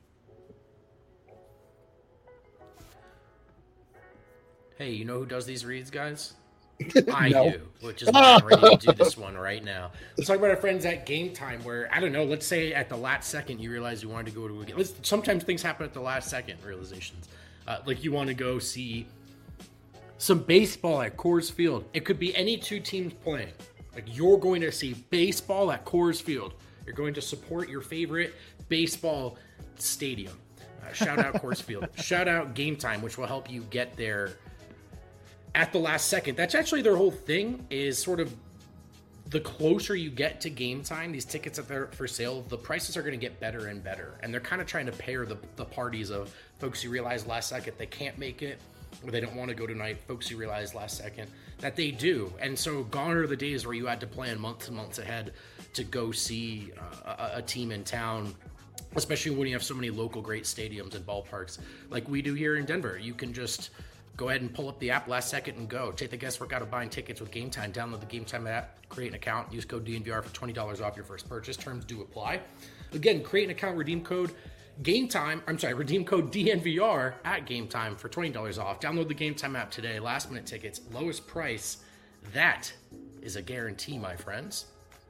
Hey, you know who does these reads, guys? I No. do, which is why I'm ready to do this one right now. Let's talk about our friends at Game Time, where, I don't know, let's say at the last second you realize you wanted to go to a game. Let's, sometimes things happen at the last second, realizations. Uh, like you want to go see some baseball at Coors Field. It could be any two teams playing. Like, you're going to see baseball at Coors Field. You're going to support your favorite baseball stadium. Uh, shout out Coors Field. Shout out Game Time, which will help you get there at the last second. That's actually their whole thing, is sort of the closer you get to game time, these tickets that they're for sale, the prices are going to get better and better. And they're kind of trying to pair the, the parties of folks who realize last second they can't make it, or they don't want to go tonight, folks who realize last second that they do. And so gone are the days where you had to plan months and months ahead to go see uh, a, a team in town, especially when you have so many local great stadiums and ballparks like we do here in Denver. You can just go ahead and pull up the app last second and go. Take the guesswork out of buying tickets with Game Time. Download the Game Time app, create an account, use code D N V R for twenty dollars off your first purchase. Terms do apply. Again, create an account, redeem code Game Time. I'm sorry, redeem code D N V R at Game Time for twenty dollars off. Download the Game Time app today. Last minute tickets, lowest price. That is a guarantee, my friends.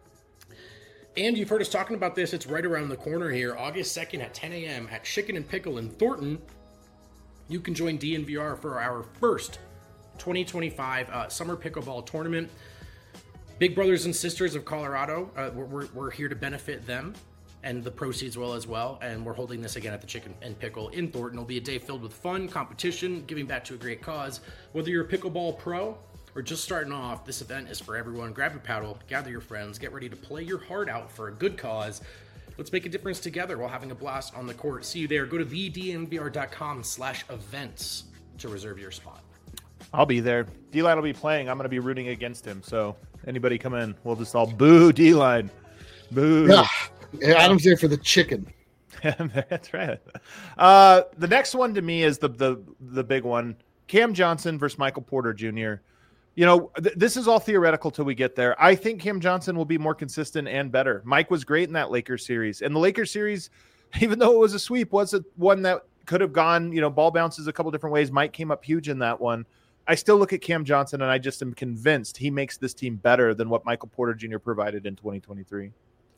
And you've heard us talking about this. It's right around the corner here. August second at ten a.m. at Chicken and Pickle in Thornton. You can join D N V R for our first twenty twenty-five uh, Summer Pickleball Tournament. Big Brothers and Sisters of Colorado, uh, we're, we're, we're here to benefit them and the proceeds will as well. And we're holding this again at the Chicken and Pickle in Thornton. It'll be a day filled with fun, competition, giving back to a great cause. Whether you're a pickleball pro or just starting off, this event is for everyone. Grab your paddle, gather your friends, get ready to play your heart out for a good cause. Let's make a difference together while having a blast on the court. See you there. Go to the d n v r dot com slash events to reserve your spot. I'll be there. D-Line will be playing. I'm going to be rooting against him. So anybody come in, we'll just all boo D-Line. Boo. Yeah. Yeah, Adam's there for the chicken. That's right. Uh, the next one to me is the the the big one. Cam Johnson versus Michael Porter Junior You know, th- this is all theoretical till we get there. I think Cam Johnson will be more consistent and better. Mike was great in that Lakers series. And the Lakers series, even though it was a sweep, was a, one that could have gone, you know, ball bounces a couple different ways. Mike came up huge in that one. I still look at Cam Johnson, and I just am convinced he makes this team better than what Michael Porter Junior provided in twenty twenty-three.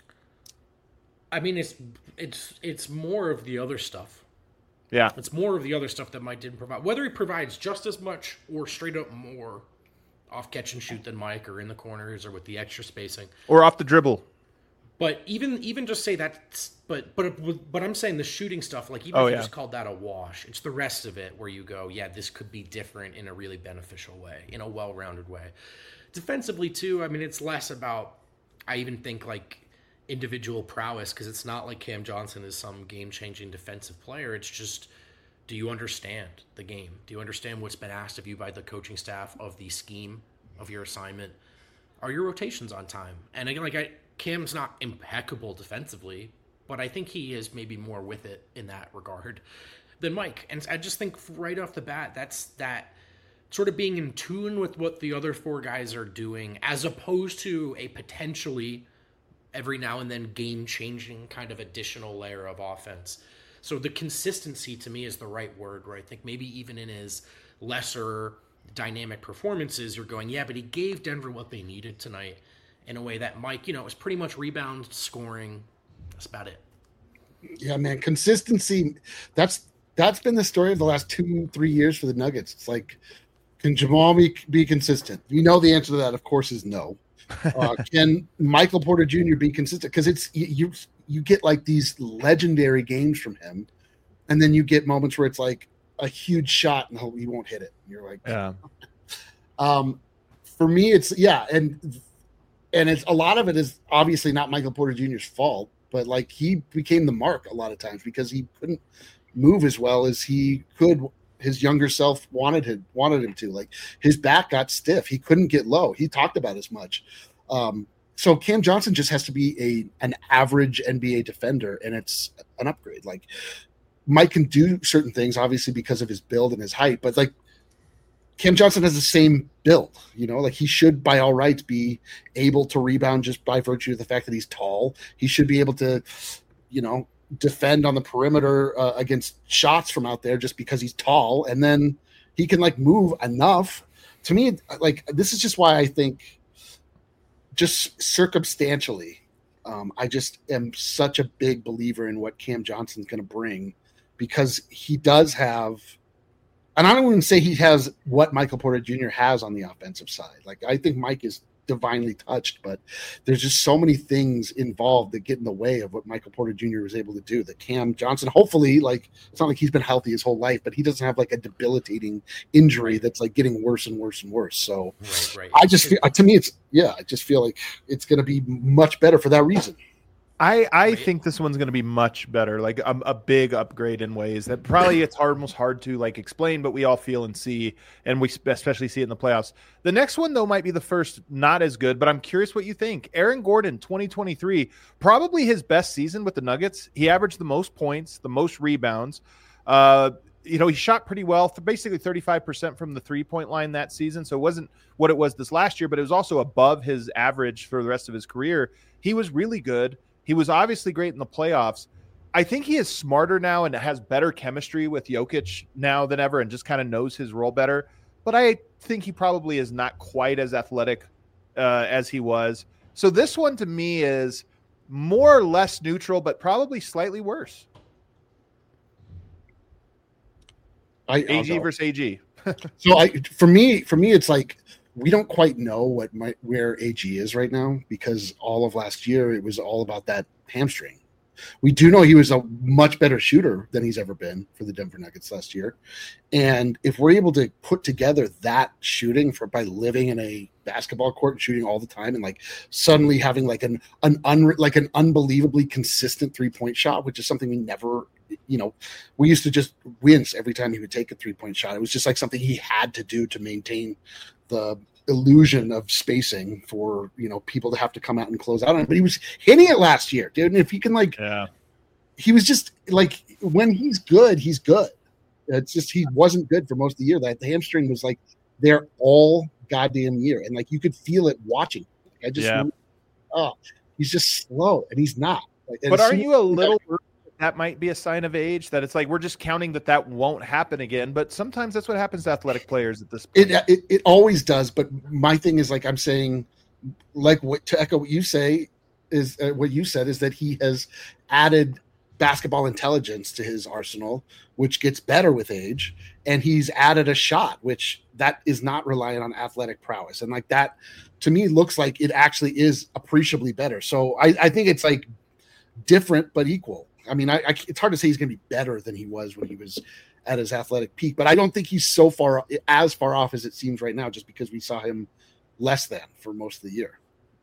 I mean, it's it's it's more of the other stuff. Yeah. It's more of the other stuff that Mike didn't provide. Whether he provides just as much or straight up more off catch and shoot than Mike, or in the corners, or with the extra spacing, or off the dribble. But even even just say that, but but but I'm saying the shooting stuff, like even oh, if you yeah. just called that a wash, it's the rest of it where you go, yeah, this could be different in a really beneficial way, in a well-rounded way. Defensively too, I mean, it's less about, I even think, like individual prowess, because it's not like Cam Johnson is some game-changing defensive player. It's just, do you understand the game? Do you understand what's been asked of you by the coaching staff, of the scheme of your assignment? Are your rotations on time? And again, like I. Cam's not impeccable defensively, but I think he is maybe more with it in that regard than Mike. And I just think right off the bat, that's that sort of being in tune with what the other four guys are doing, as opposed to a potentially every now and then game-changing kind of additional layer of offense. So the consistency to me is the right word, where I think maybe even in his lesser dynamic performances, you're going, yeah, but he gave Denver what they needed tonight in a way that Mike, you know, it was pretty much rebound, scoring. That's about it. Yeah, man, consistency. That's that's been the story of the last two, three years for the Nuggets. It's like, can Jamal be, be consistent? You know the answer to that, of course, is no. Uh, can Michael Porter Junior be consistent? Because it's you, you you get like these legendary games from him, and then you get moments where it's like a huge shot and he won't hit it. You're like, yeah. Um, for me, it's yeah, and and it's a lot of it is obviously not Michael Porter Junior's fault, but like he became the mark a lot of times because he couldn't move as well as he could. His younger self wanted him wanted him to. Like his back got stiff. He couldn't get low. He talked about as much. Um, so Cam Johnson just has to be a an average N B A defender, and it's an upgrade. Like Mike can do certain things, obviously because of his build and his height, but like Cam Johnson has the same build. You know, like he should by all rights be able to rebound just by virtue of the fact that he's tall. He should be able to, you know, defend on the perimeter uh, against shots from out there just because he's tall, and then he can like move enough. To me, like this is just why I think, just circumstantially, um, I just am such a big believer in what Cam Johnson's going to bring, because he does have, and I don't even say he has what Michael Porter Junior has on the offensive side. Like I think Mike is divinely touched, but there's just so many things involved that get in the way of what Michael Porter Junior was able to do. That Cam Johnson, hopefully, like it's not like he's been healthy his whole life, but he doesn't have like a debilitating injury that's like getting worse and worse and worse. So right, right. I just feel, to me, it's yeah, I just feel like it's going to be much better for that reason. I, I Right. think this one's going to be much better, like a, a big upgrade in ways that probably it's hard, almost hard to like explain, but we all feel and see, and we especially see it in the playoffs. The next one, though, might be the first not as good, but I'm curious what you think. Aaron Gordon, twenty twenty-three, probably his best season with the Nuggets. He averaged the most points, the most rebounds. Uh, you know, he shot pretty well, basically thirty-five percent from the three-point line that season, so it wasn't what it was this last year, but it was also above his average for the rest of his career. He was really good. He was obviously great in the playoffs. I think he is smarter now and has better chemistry with Jokic now than ever and just kind of knows his role better. But I think he probably is not quite as athletic uh, as he was. So this one to me is more or less neutral, but probably slightly worse. I, A G versus A G. So I, for me, for me, it's like we don't quite know what my, where A G is right now, because all of last year it was all about that hamstring. We do know he was a much better shooter than he's ever been for the Denver Nuggets last year. And if we're able to put together that shooting for by living in a basketball court and shooting all the time, and like suddenly having like an an un, like an unbelievably consistent three-point shot, which is something we never, you know, we used to just wince every time he would take a three-point shot. It was just like something he had to do to maintain the illusion of spacing for, you know, people to have to come out and close out on it. But he was hitting it last year, dude. And if he can, like, yeah, he was just like, when he's good, he's good. It's just he wasn't good for most of the year. That the hamstring was like there all goddamn year, and like you could feel it watching. Like, I just, yeah. knew, oh, he's just slow, and he's not. Like, but aren't you a little worried that might be a sign of age, that it's like we're just counting that that won't happen again? But sometimes that's what happens to athletic players at this point. It, it it always does. But my thing is, like I'm saying, like what to echo what you say is uh, what you said is that he has added basketball intelligence to his arsenal, which gets better with age, and he's added a shot, which that is not reliant on athletic prowess, and like that to me looks like it actually is appreciably better. So I, I think it's like different but equal. I mean, I, I, it's hard to say he's going to be better than he was when he was at his athletic peak, but I don't think he's so far as far off as it seems right now, just because we saw him less than for most of the year.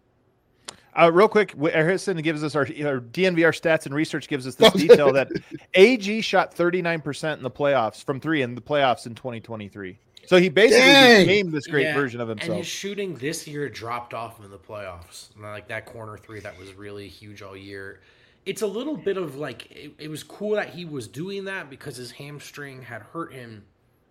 Uh, real quick, Harrison gives us our, our D N V R stats and research gives us this detail that A G shot thirty-nine percent in the playoffs from three in the playoffs in twenty twenty-three. So he basically Dang. became this great Yeah, version of himself. And his shooting this year dropped off in the playoffs. Like that corner three that was really huge all year. It's a little bit of like, it, it was cool that he was doing that because his hamstring had hurt him.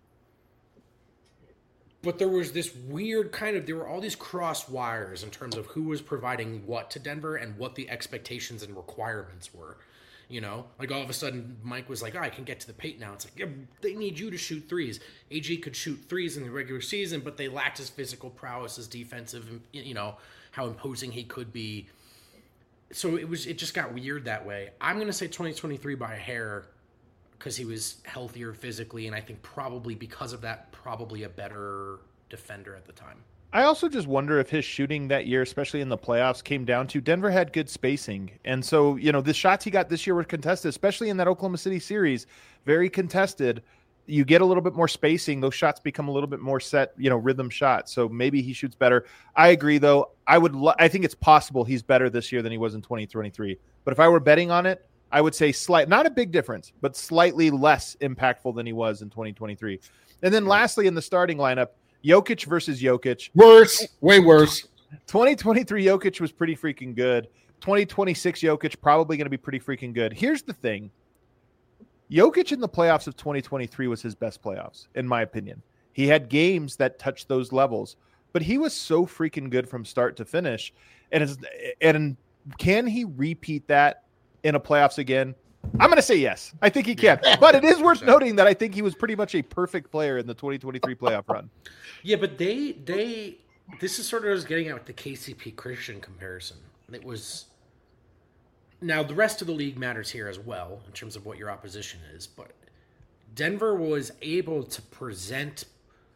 But there was this weird kind of, there were all these cross wires in terms of who was providing what to Denver and what the expectations and requirements were. You know, like all of a sudden Mike was like, oh, I can get to the paint now. It's like, yeah, they need you to shoot threes. A G could shoot threes in the regular season, but they lacked his physical prowess, his defensive, you know, how imposing he could be. So it was, it just got weird that way. I'm going to say twenty twenty-three by a hair because he was healthier physically. And I think probably because of that, probably a better defender at the time. I also just wonder if his shooting that year, especially in the playoffs, came down to Denver had good spacing. And so, you know, the shots he got this year were contested, especially in that Oklahoma City series, very contested. You get a little bit more spacing. Those shots become a little bit more set, you know, rhythm shots. So maybe he shoots better. I agree, though. I would, lo- I think it's possible he's better this year than he was in twenty twenty-three. But if I were betting on it, I would say slight, not a big difference, but slightly less impactful than he was in twenty twenty-three. And then lastly, in the starting lineup, Jokic versus Jokic. Worse, way worse. twenty twenty-three Jokic was pretty freaking good. twenty twenty-six Jokic probably going to be pretty freaking good. Here's the thing. Jokic in the playoffs of twenty twenty-three was his best playoffs, in my opinion. He had games that touched those levels, but he was so freaking good from start to finish. And, it's, and can he repeat that in a playoffs again? I'm going to say yes. I think he can. But it is worth noting that I think he was pretty much a perfect player in the twenty twenty-three playoff run. Yeah, but they they this is sort of what I was getting at with the K C P Christian comparison. It was now the rest of the league matters here as well in terms of what your opposition is, but Denver was able to present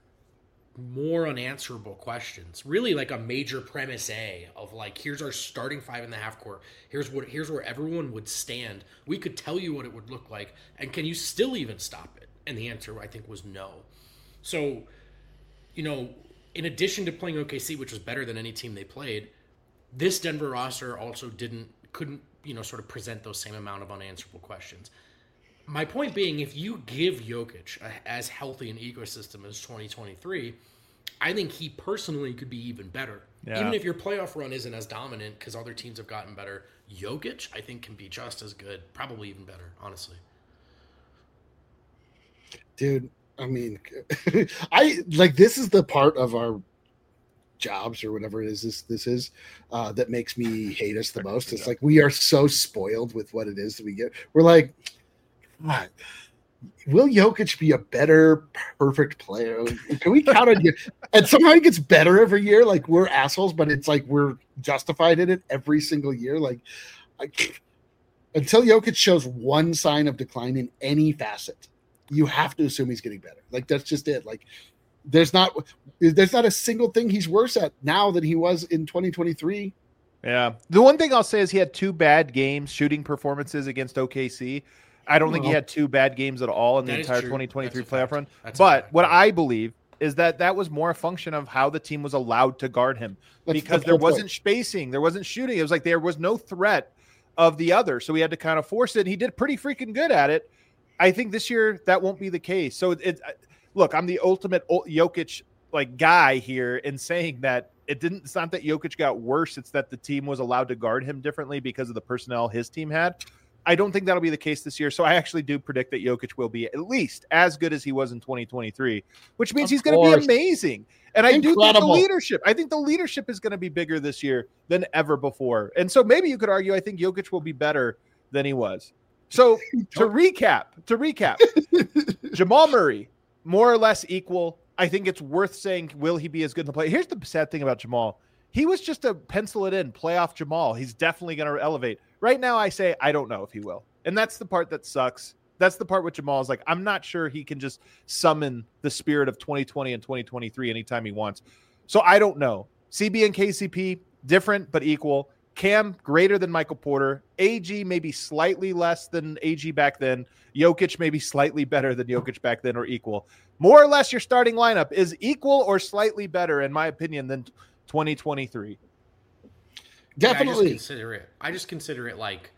more unanswerable questions, really like a major premise A of like, here's our starting five in the half court. Here's what, here's where everyone would stand. We could tell you what it would look like. And can you still even stop it? And the answer I think was no. So, you know, in addition to playing O K C, which was better than any team they played, this Denver roster also didn't, couldn't, you know, sort of present those same amount of unanswerable questions. My point being, if you give Jokic a, as healthy an ecosystem as twenty twenty-three, I think he personally could be even better. Yeah. Even if your playoff run isn't as dominant because other teams have gotten better, Jokic, I think, can be just as good, probably even better, honestly. Dude, I mean, I like this is the part of our jobs or whatever it is this this is uh, that makes me hate us the most. It's like we are so spoiled with what it is that we get. We're like, God, will Jokic be a better perfect player? Can we count on you? And somehow he gets better every year. Like we're assholes, but it's like we're justified in it every single year. Like I, until Jokic shows one sign of decline in any facet, you have to assume he's getting better. Like that's just it. Like there's not there's not a single thing he's worse at now than he was in twenty twenty-three. Yeah. The one thing I'll say is he had two bad games shooting performances against O K C. I don't think he had two bad games at all in the entire twenty twenty-three playoff run. But what I believe is that that was more a function of how the team was allowed to guard him because there wasn't spacing. There wasn't shooting. It was like there was no threat of the other. So he had to kind of force it. And he did pretty freaking good at it. I think this year that won't be the case. So it, it look, I'm the ultimate Jokic like guy here in saying that it didn't, it's not that Jokic got worse. It's that the team was allowed to guard him differently because of the personnel his team had. I don't think that'll be the case this year. So I actually do predict that Jokic will be at least as good as he was in twenty twenty-three, which means of he's going to be amazing. And I Incredible. do think the leadership, I think the leadership is going to be bigger this year than ever before. And so maybe you could argue, I think Jokic will be better than he was. So to recap, to recap, Jamal Murray, more or less equal. I think it's worth saying, will he be as good in the play? Here's the sad thing about Jamal. He was just a pencil it in playoff Jamal. He's definitely going to elevate. Right now, I say I don't know if he will. And that's the part that sucks. That's the part with Jamal is like, I'm not sure he can just summon the spirit of twenty twenty and twenty twenty-three anytime he wants. So I don't know. C B and K C P, different but equal. Cam, greater than Michael Porter. A G, maybe slightly less than A G back then. Jokic, maybe slightly better than Jokic back then or equal. More or less, your starting lineup is equal or slightly better, in my opinion, than twenty twenty-three. Definitely. Yeah, I just consider it. I just consider it like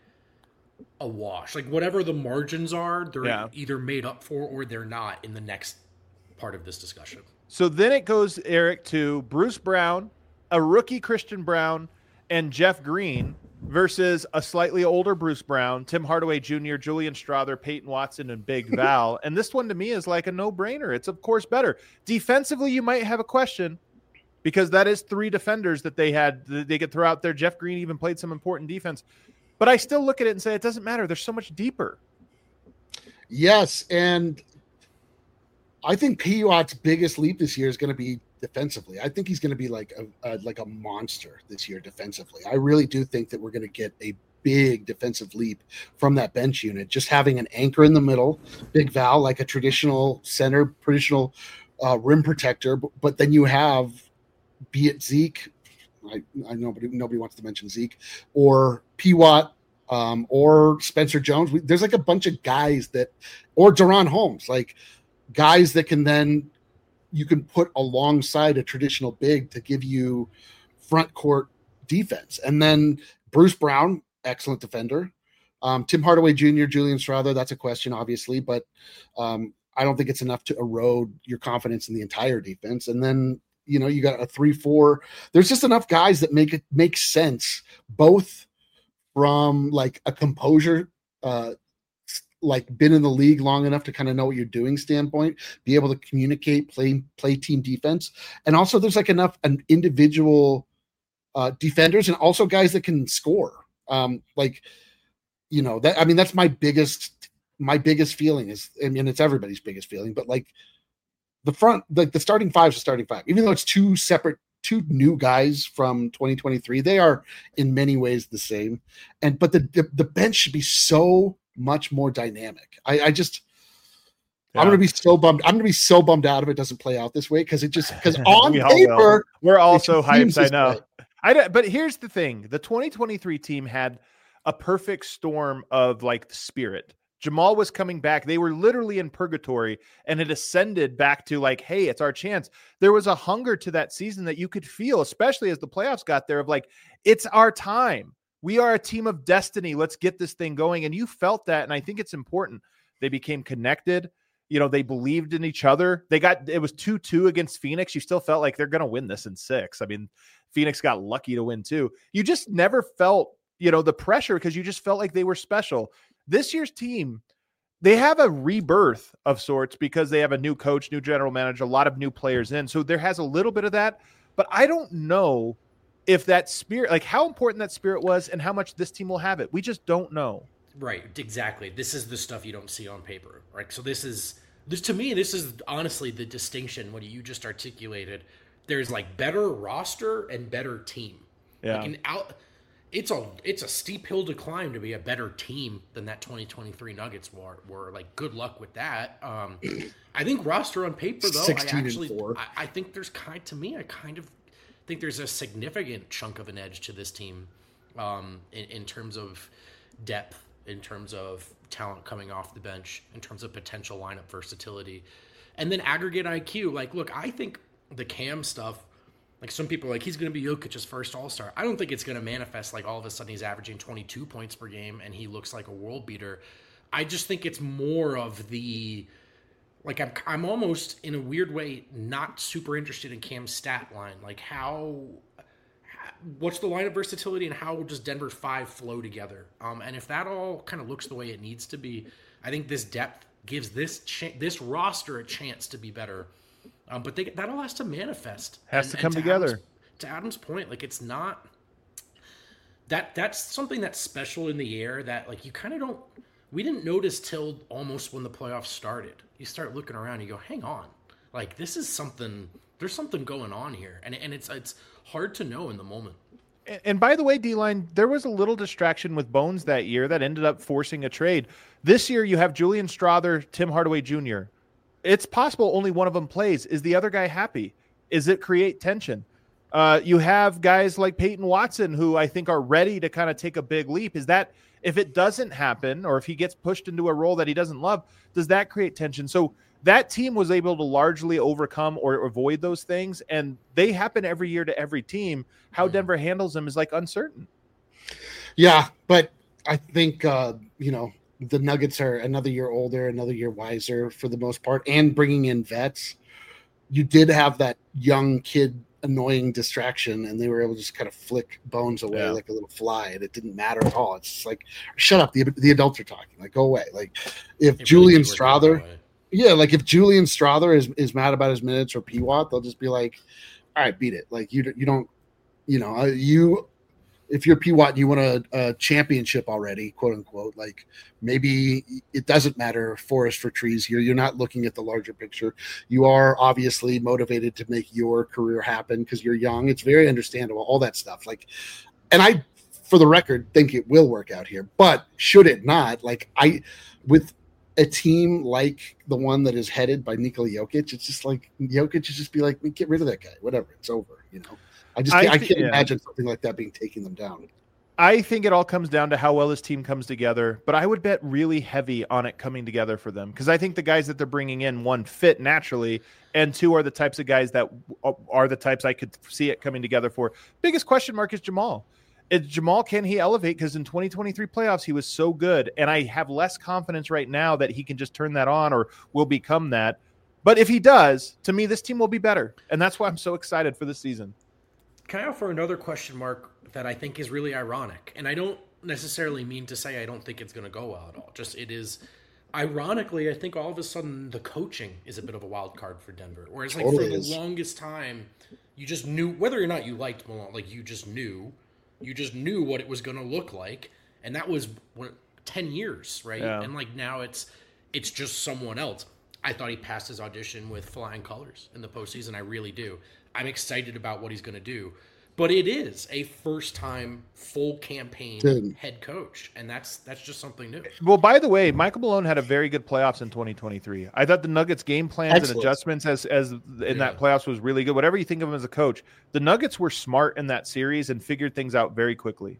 a wash. Like whatever the margins are, they're yeah. either made up for or they're not in the next part of this discussion. So then it goes, Eric, to Bruce Brown, a rookie Christian Brown, and Jeff Green versus a slightly older Bruce Brown, Tim Hardaway Junior, Julian Strawther, Peyton Watson, and Big Val. And this one to me is like a no-brainer. It's of course better. Defensively, you might have a question, because that is three defenders that they had. They could throw out there. Jeff Green even played some important defense. But I still look at it and say it doesn't matter. They're so much deeper. Yes, and I think Piot's biggest leap this year is going to be defensively. I think he's going to be like a, a like a monster this year defensively. I really do think that we're going to get a big defensive leap from that bench unit. Just having an anchor in the middle, Big Val, like a traditional center, traditional uh, rim protector, but, but then you have, be it Zeke, I, I know nobody, nobody wants to mention Zeke, or Piot, um, or Spencer Jones. We, there's like a bunch of guys that, or Deron Holmes, like guys that can then you can put alongside a traditional big to give you front court defense. And then Bruce Brown, excellent defender. Um, Tim Hardaway Junior, Julian Strawther, that's a question, obviously, but um, I don't think it's enough to erode your confidence in the entire defense. And then, you know, you got a three, four. There's just enough guys that make it make sense, both from like a composure, uh, like been in the league long enough to kind of know what you're doing standpoint, be able to communicate, play, play team defense. And also there's like enough an individual uh, defenders and also guys that can score. Um, like, you know, that, I mean, that's my biggest, my biggest feeling is, I mean, it's everybody's biggest feeling, but like the front, like the starting five is a starting five, even though it's two separate, two new guys from twenty twenty-three, they are in many ways the same. And, but the, the, the bench should be so much more dynamic. I, I just, yeah. I'm going to be so bummed. I'm going to be so bummed out if it doesn't play out this way. Cause it just, cause on paper, we're also hyped. I know. I, but here's the thing. The twenty twenty-three team had a perfect storm of like spirit. Jamal was coming back. They were literally in purgatory and it ascended back to like, hey, it's our chance. There was a hunger to that season that you could feel, especially as the playoffs got there, of like, it's our time. We are a team of destiny. Let's get this thing going. And you felt that. And I think it's important. They became connected. You know, they believed in each other. They got, it was two two against Phoenix. You still felt like they're going to win this in six. I mean, Phoenix got lucky to win too. You just never felt, you know, the pressure because you just felt like they were special. This year's team, they have a rebirth of sorts because they have a new coach, new general manager, a lot of new players in. So there has a little bit of that, but I don't know if that spirit, like how important that spirit was and how much this team will have it. We just don't know. Right. Exactly. This is the stuff you don't see on paper, right? So this is, this to me, this is honestly the distinction, what you just articulated. There's like better roster and better team. Yeah. Like an out, it's a it's a steep hill to climb to be a better team than that twenty twenty-three Nuggets were. Were like good luck with that. Um, I think roster on paper though, I actually I, I think there's kind to me I kind of think there's a significant chunk of an edge to this team um, in, in terms of depth, in terms of talent coming off the bench, in terms of potential lineup versatility, and then aggregate I Q. Like, look, I think the Cam stuff. Like some people are like, he's going to be Jokic's first all-star. I don't think it's going to manifest like all of a sudden he's averaging twenty-two points per game and he looks like a world beater. I just think it's more of the, like I'm, I'm almost in a weird way not super interested in Cam's stat line. Like how, what's the lineup versatility and how does Denver's five flow together? Um, and if that all kind of looks the way it needs to be, I think this depth gives this cha- this roster a chance to be better. Um, but they, that all has to manifest. Has and, to come to together. Adam's, to Adam's point, like it's not that that's something that's special in the air that like you kind of don't. We didn't notice till almost when the playoffs started. You start looking around, you go, hang on, like this is something. There's something going on here, and and it's it's hard to know in the moment. And, and by the way, D-Line, there was a little distraction with Bones that year that ended up forcing a trade. This year, you have Julian Strawther, Tim Hardaway Junior It's possible only one of them plays. Is the other guy happy? Is it create tension? Uh, you have guys like Peyton Watson, who I think are ready to kind of take a big leap. Is that, if it doesn't happen, or if he gets pushed into a role that he doesn't love, does that create tension? So that team was able to largely overcome or avoid those things, and they happen every year to every team. How Denver handles them is like uncertain. Yeah, but I think, uh, you know, the Nuggets are another year older, another year wiser for the most part, and bringing in vets. You did have that young kid annoying distraction, and they were able to just kind of flick Bones away yeah. like a little fly, and it didn't matter at all. It's just like, shut up, the the adults are talking. Like, go away. Like, if it Julian really Strawther, yeah, like if Julian Strawther is, is mad about his minutes or Piot, they'll just be like, all right, beat it. Like you you don't, you know, you if you're P. Watt and you want a, a championship already, quote unquote, like maybe it doesn't matter forest for trees here. You're not looking at the larger picture. You are obviously motivated to make your career happen because you're young. It's very understandable, all that stuff. Like, and I, for the record, think it will work out here. But should it not, like I, with a team like the one that is headed by Nikola Jokic, it's just like Jokic should just be like, get rid of that guy. Whatever, it's over. You know, I just I, I can't yeah. imagine something like that being taking them down. I think it all comes down to how well this team comes together, but I would bet really heavy on it coming together for them because I think the guys that they're bringing in, one, fit naturally, and two, are the types of guys that are the types I could see it coming together for. Biggest question mark is Jamal. Is Jamal, can he elevate? Because in twenty twenty-three playoffs, he was so good. And I have less confidence right now that he can just turn that on or will become that. But if he does, to me, this team will be better. And that's why I'm so excited for this season. Can I offer another question mark that I think is really ironic? And I don't necessarily mean to say I don't think it's going to go well at all. Just it is, ironically, I think all of a sudden the coaching is a bit of a wild card for Denver. Whereas like totally for is. the longest time, you just knew, whether or not you liked Malone, like you just knew. You just knew what it was going to look like, and that was what, ten years, right? Yeah. And like now it's it's just someone else. I thought he passed his audition with flying colors in the postseason. I really do. I'm excited about what he's going to do, but it is a first-time full campaign Dude. head coach, and that's that's just something new. Well, by the way, Michael Malone had a very good playoffs in twenty twenty-three. I thought the Nuggets' game plans Excellent. and adjustments as as in yeah. that playoffs was really good. Whatever you think of him as a coach, the Nuggets were smart in that series and figured things out very quickly.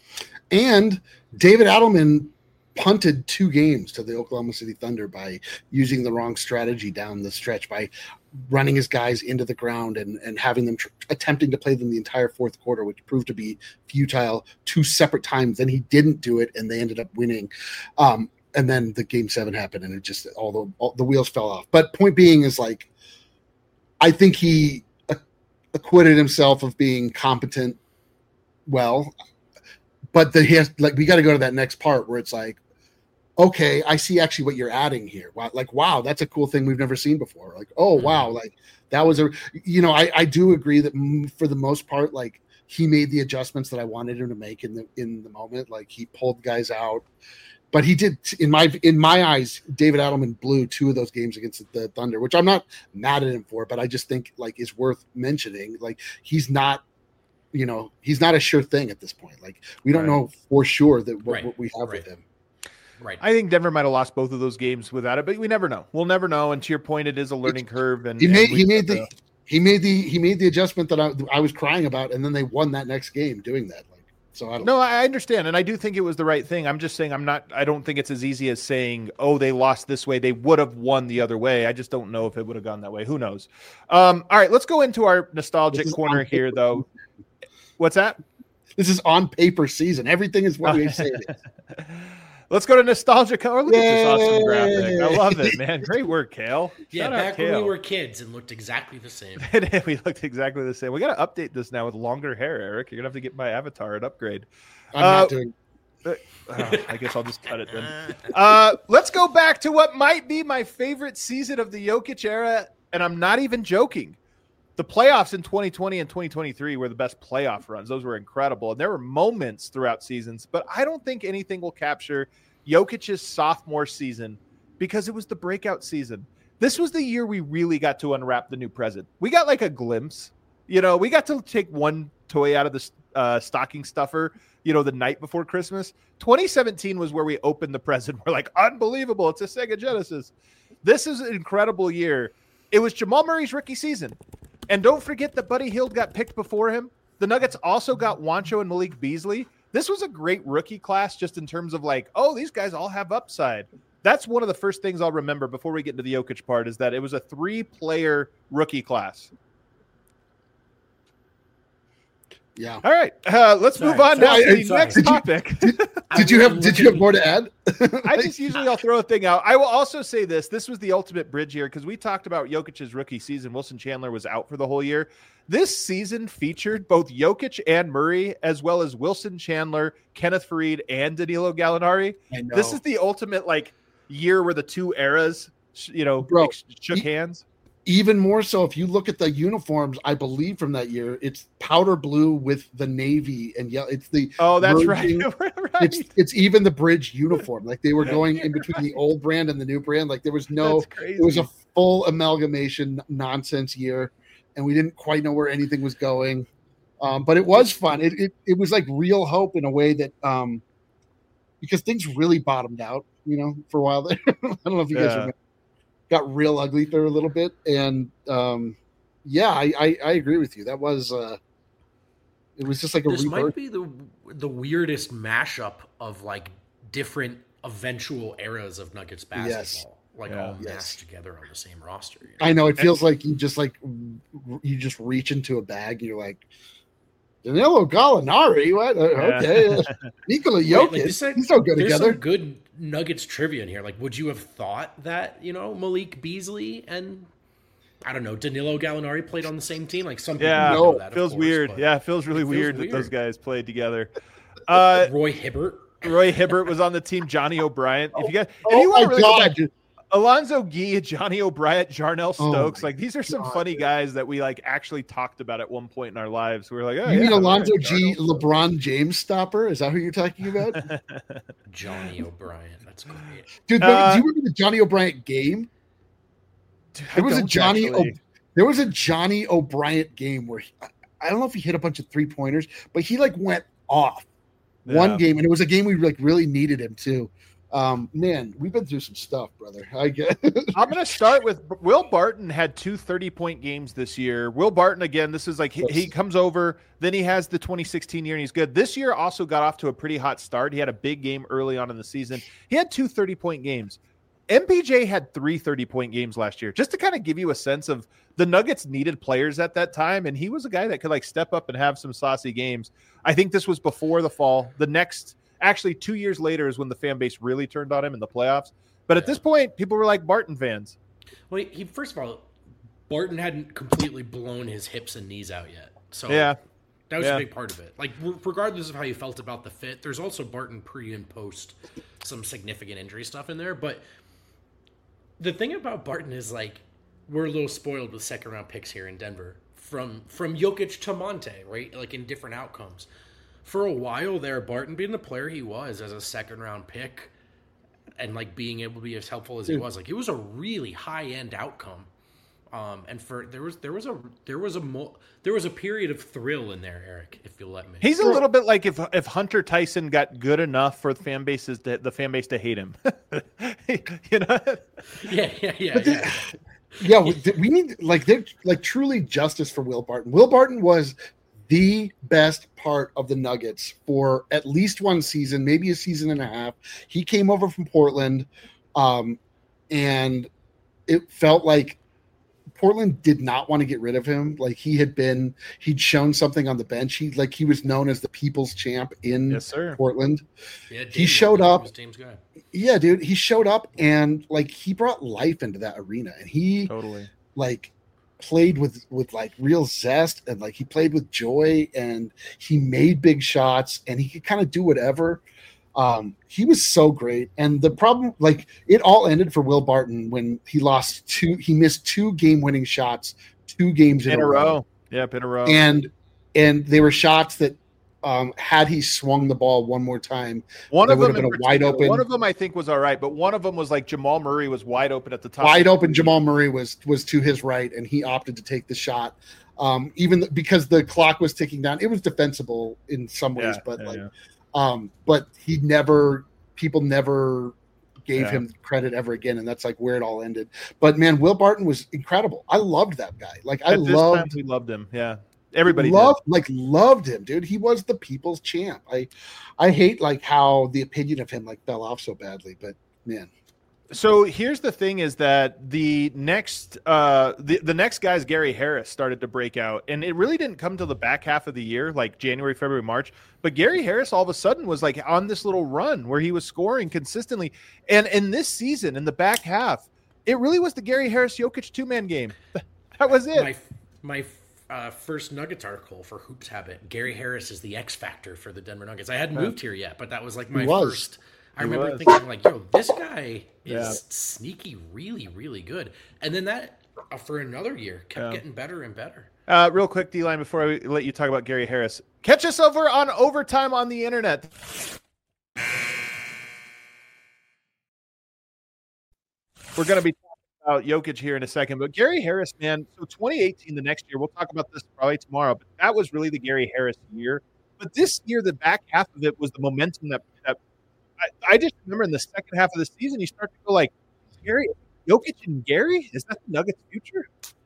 And David Adelman punted two games to the Oklahoma City Thunder by using the wrong strategy down the stretch, by running his guys into the ground and, and having them tr- attempting to play them the entire fourth quarter, which proved to be futile two separate times. Then he didn't do it, and they ended up winning. Um, and then the game seven happened, and it just all the all, the wheels fell off. But point being is, like, I think he acquitted himself of being competent. Well, but the, he has like we got to go to that next part where it's like, okay, I see actually what you're adding here. Wow, like, wow, that's a cool thing we've never seen before. Like, oh, wow, like that was a, you know, I, I do agree that for the most part, like he made the adjustments that I wanted him to make in the in the moment. Like he pulled guys out, but he did in my in my eyes. David Adelman blew two of those games against the Thunder, which I'm not mad at him for, but I just think like is worth mentioning. Like he's not. You know, he's not a sure thing at this point. Like we don't right. know for sure that what, right. what we have right. with him. Right. I think Denver might have lost both of those games without it, but we never know. We'll never know. And to your point, it is a learning it's, curve. And he made and he made the know. he made the he made the adjustment that I, I was crying about, and then they won that next game doing that. Like so, I don't no, I understand, and I do think it was the right thing. I'm just saying I'm not. I don't think it's as easy as saying, oh, they lost this way. They would have won the other way. I just don't know if it would have gone that way. Who knows? Um, all right, let's go into our nostalgic corner here, though. What's that? This is on paper season. Everything is what we say. Let's go to nostalgia color. Look Yay. at this awesome graphic. I love it, man. Great work, Kale. Yeah, Shout back out, when Kale. we were kids and looked exactly the same. We looked exactly the same. We got to update this now with longer hair, Eric. You're gonna have to get my avatar an upgrade. I'm uh, not doing. Uh, oh, I guess I'll just cut it then. Uh, let's go back to what might be my favorite season of the Jokic era, and I'm not even joking. The playoffs in twenty twenty and twenty twenty-three were the best playoff runs. Those were incredible. And there were moments throughout seasons, but I don't think anything will capture Jokic's sophomore season because it was the breakout season. This was the year we really got to unwrap the new present. We got like a glimpse. You know, we got to take one toy out of the uh, stocking stuffer, you know, the night before Christmas. twenty seventeen was where we opened the present. We're like, unbelievable. It's a Sega Genesis. This is an incredible year. It was Jamal Murray's rookie season. And don't forget that Buddy Hield got picked before him. The Nuggets also got Juancho and Malik Beasley. This was a great rookie class just in terms of like, oh, these guys all have upside. That's one of the first things I'll remember before we get into the Jokic part is that it was a three-player rookie class. Yeah. All right. Uh, let's sorry, move on sorry, now to the sorry. next Did you, topic. Did, did you have Did you have more to add? I just usually I'll throw a thing out. I will also say this: this was the ultimate bridge year because we talked about Jokic's rookie season. Wilson Chandler was out for the whole year. This season featured both Jokic and Murray, as well as Wilson Chandler, Kenneth Faried, and Danilo Gallinari. This is the ultimate like year where the two eras, you know, Bro, shook hands. even more so, if you look at the uniforms, I believe from that year, it's powder blue with the navy and yellow. It's the oh, that's merging, right. right. It's it's even the bridge uniform. Like they were going in between the old brand and the new brand. Like there was no, it was a full amalgamation nonsense year, and we didn't quite know where anything was going. Um, but it was fun. It, it it was like real hope in a way that um, because things really bottomed out, you know, for a while there. I don't know if you yeah. guys remember. Got real ugly for a little bit, and um, yeah, I, I, I agree with you. That was uh, it was just like a this rebirth. Might be the the weirdest mashup of like different eventual eras of Nuggets basketball, yes. like yeah. all yes. mashed together on the same roster. You know? I know it feels like you just like you just reach into a bag. And you're like, Danilo Gallinari, what? Okay, yeah. Nikola Jokic, Wait, like said, he's so good there's together. Some good Nuggets trivia in here. Like, would you have thought that, you know, Malik Beasley and I don't know, Danilo Gallinari played on the same team? Like some people yeah, know that. Feels course, weird. Yeah, it feels really it feels weird, weird that those guys played together. Uh, Roy Hibbert. Roy Hibbert was on the team. Johnny O'Brien. If you guys, if oh you want to really God. go back, Alonzo Gee, Johnny O'Brien, Jarnell Stokes, oh like these are some God. funny guys that we like actually talked about at one point in our lives. We were like, oh, you yeah, mean Alonzo right, G, Jarnell LeBron James stopper? Is that who you're talking about? Johnny O'Brien. That's great. Dude, uh, do you remember the Johnny O'Brien game? Dude, There was a Johnny. Actually. O, there was a Johnny O'Brien game where he, I don't know if he hit a bunch of three pointers, but he like went off Yeah. one game, and it was a game we like really needed him too. Um, man, we've been through some stuff, brother. I get. I'm going to start with Will Barton had two thirty-point games this year. Will Barton, again, this is like he, he comes over, then he has the twenty sixteen year, and he's good. This year also got off to a pretty hot start. He had a big game early on in the season. He had two thirty-point games. M P J had three thirty-point games last year, just to kind of give you a sense of the Nuggets needed players at that time, and he was a guy that could like step up and have some saucy games. I think this was before the fall. The next – actually, two years later is when the fan base really turned on him in the playoffs. But at yeah. this point, people were like Barton fans. Well, he first of all, Barton hadn't completely blown his hips and knees out yet. So yeah. that was yeah. a big part of it. Like, regardless of how you felt about the fit, there's also Barton pre and post some significant injury stuff in there. But the thing about Barton is, like, we're a little spoiled with second round picks here in Denver. From from Jokic to Monte, right? Like, in different outcomes. For a while there, Barton being the player he was as a second round pick and like being able to be as helpful as he was, like it was a really high end outcome. Um, and for there was there was a there was a mo- there was a period of thrill in there, Eric, if you'll let me. He's a little bit like if if Hunter Tyson got good enough for the fan bases to, the fan base to hate him. You know? Yeah, yeah, yeah. But yeah. The, yeah, we, we need like they're like truly justice for Will Barton. Will Barton was the best part of the Nuggets for at least one season, maybe a season and a half. He came over from Portland, um, and it felt like Portland did not want to get rid of him. Like he had been, he'd shown something on the bench. He like he was known as the people's champ in yes, sir. Portland. Yeah, he showed up. James guy. Yeah, dude, he showed up and like he brought life into that arena, and he totally like played with with like real zest, and like he played with joy, and he made big shots, and he could kind of do whatever. Um, he was so great. And the problem, like it all ended for Will Barton when he lost two, he missed two game winning shots, two games in, in a a row. row. Yep, in a row. And and they were shots that um, had he swung the ball one more time, one of them would have been a wide open. One of them I think was all right, but one of them was like Jamal Murray was wide open at the top. Wide open Jamal Murray was was to his right, and he opted to take the shot. Um, even because the clock was ticking down, it was defensible in some ways, Yeah, but yeah, like, yeah. um, but he never, people never gave Yeah. him credit ever again, and that's like where it all ended. But man, Will Barton was incredible. I loved that guy. Like I At this loved, time, we loved him. Yeah, everybody loved, like loved him, dude. He was the people's champ. I, I hate like how the opinion of him like fell off so badly, but man. So here's the thing: is that the next, uh, the the next guys, Gary Harris started to break out, and it really didn't come till the back half of the year, like January, February, March. But Gary Harris all of a sudden was like on this little run where he was scoring consistently, and in this season, in the back half, it really was the Gary Harris Jokic two man game. That was it. My my uh, first Nuggets article for Hoops Habit. Gary Harris is the X factor for the Denver Nuggets. I hadn't Yeah. moved here yet, but that was like my He was. first. I He remember was. thinking like, yo, this guy is Yeah. sneaky, really, really good. And then that uh, for another year. Kept Yeah. getting better and better. Uh, real quick, D-Line, before I let you talk about Gary Harris. Catch us over on Overtime on the internet. We're going to be talking about Jokic here in a second, but Gary Harris, man, so twenty eighteen, the next year, we'll talk about this probably tomorrow, but that was really the Gary Harris year. But this year, the back half of it was the momentum that, that I, I just remember in the second half of the season, you start to go like, Gary, Jokic and Gary? Is that the Nuggets' future?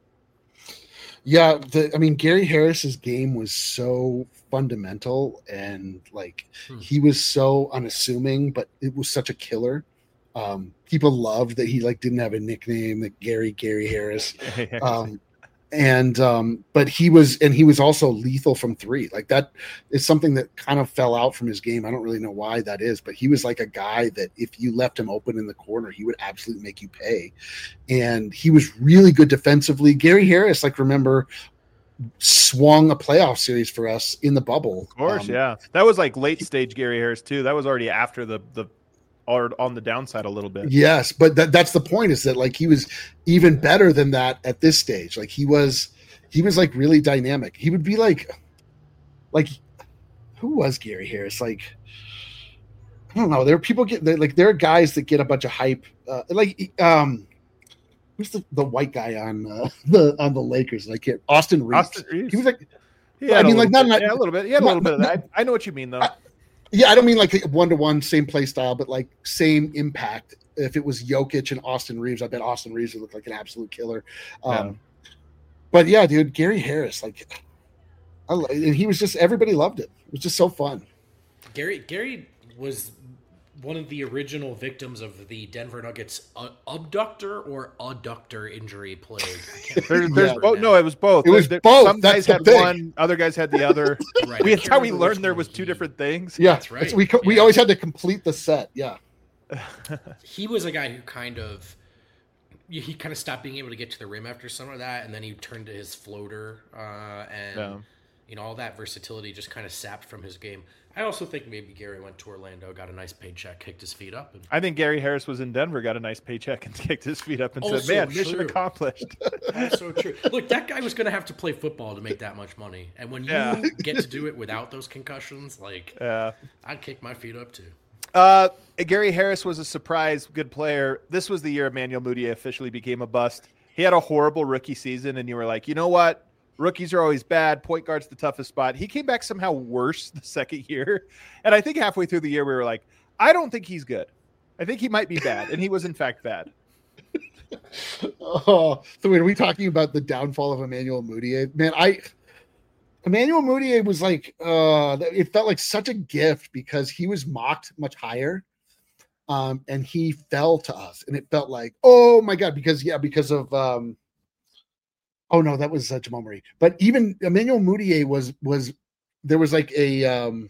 Yeah, the, I mean, Gary Harris's game was so fundamental and like Hmm. he was so unassuming, but it was such a killer. Um, people loved that he like didn't have a nickname, that Gary Gary Harris. Um, and um, but he was, and he was also lethal from three. Like that is something that kind of fell out from his game. I don't really know why that is, but he was like a guy that if you left him open in the corner, he would absolutely make you pay. And he was really good defensively. Gary Harris, like remember, swung a playoff series for us in the bubble. Of course, Um, yeah. That was like late stage Gary Harris too. That was already after the the or on the downside a little bit. Yes, but that, that's the point, is that like he was even better than that at this stage. Like he was, he was like really dynamic. He would be like, like, who was Gary Harris? Like, I don't know. There are people get like there are guys that get a bunch of hype. Uh, like, um, who's the, the white guy on uh, the on the Lakers? Like Austin Reeves. Austin Reeves. He was like, He had I mean, a like, little not- bit- yeah, a little bit. He had a not- little bit of not- that. I, I know what you mean though. I- yeah, I don't mean like one to one, same play style, but like same impact. If it was Jokic and Austin Reeves, I bet Austin Reeves would look like an absolute killer. Um, Yeah. But yeah, dude, Gary Harris, like, I, lo- and he was just, everybody loved it. It was just so fun. Gary Gary was one of the original victims of the Denver Nuggets uh, abductor or adductor injury plague. I can't There's, remember there's now. both. No, it was both. It was There- both. Some That's guys the had thing. one, other guys had the other. Right, we, I that's can't how we remember which learned there one was two he- different things. Yeah, That's right. It's- we co- we Yeah. always had to complete the set. Yeah, He was a guy who kind of he kind of stopped being able to get to the rim after some of that, and then he turned to his floater, uh, and Yeah. you know all that versatility just kind of sapped from his game. I also think maybe Gary went to Orlando, got a nice paycheck, kicked his feet up, and I think Gary Harris was in Denver, got a nice paycheck, and kicked his feet up and Also said, "Man, mission true. accomplished." so true. Look, that guy was going to have to play football to make that much money, and when you Yeah. get to do it without those concussions, like Yeah. I'd kick my feet up too. Uh, Gary Harris was a surprise good player. This was the year Emmanuel Mudiay officially became a bust. He had a horrible rookie season, and you were like, you know what? Rookies are always bad. Point guard's the toughest spot. He came back somehow worse the second year. And I think halfway through the year, we were like, I don't think he's good. I think he might be bad. And he was, in fact, bad. Oh, so wait, are we talking about the downfall of Emmanuel Mudiay? Man, I Emmanuel Mudiay was like, uh, it felt like such a gift because he was mocked much higher, um, and he fell to us, and it felt like, oh my god, because yeah, because of um, oh no, that was uh, Jamal Murray. But even Emmanuel Mudiay was was there was like a um,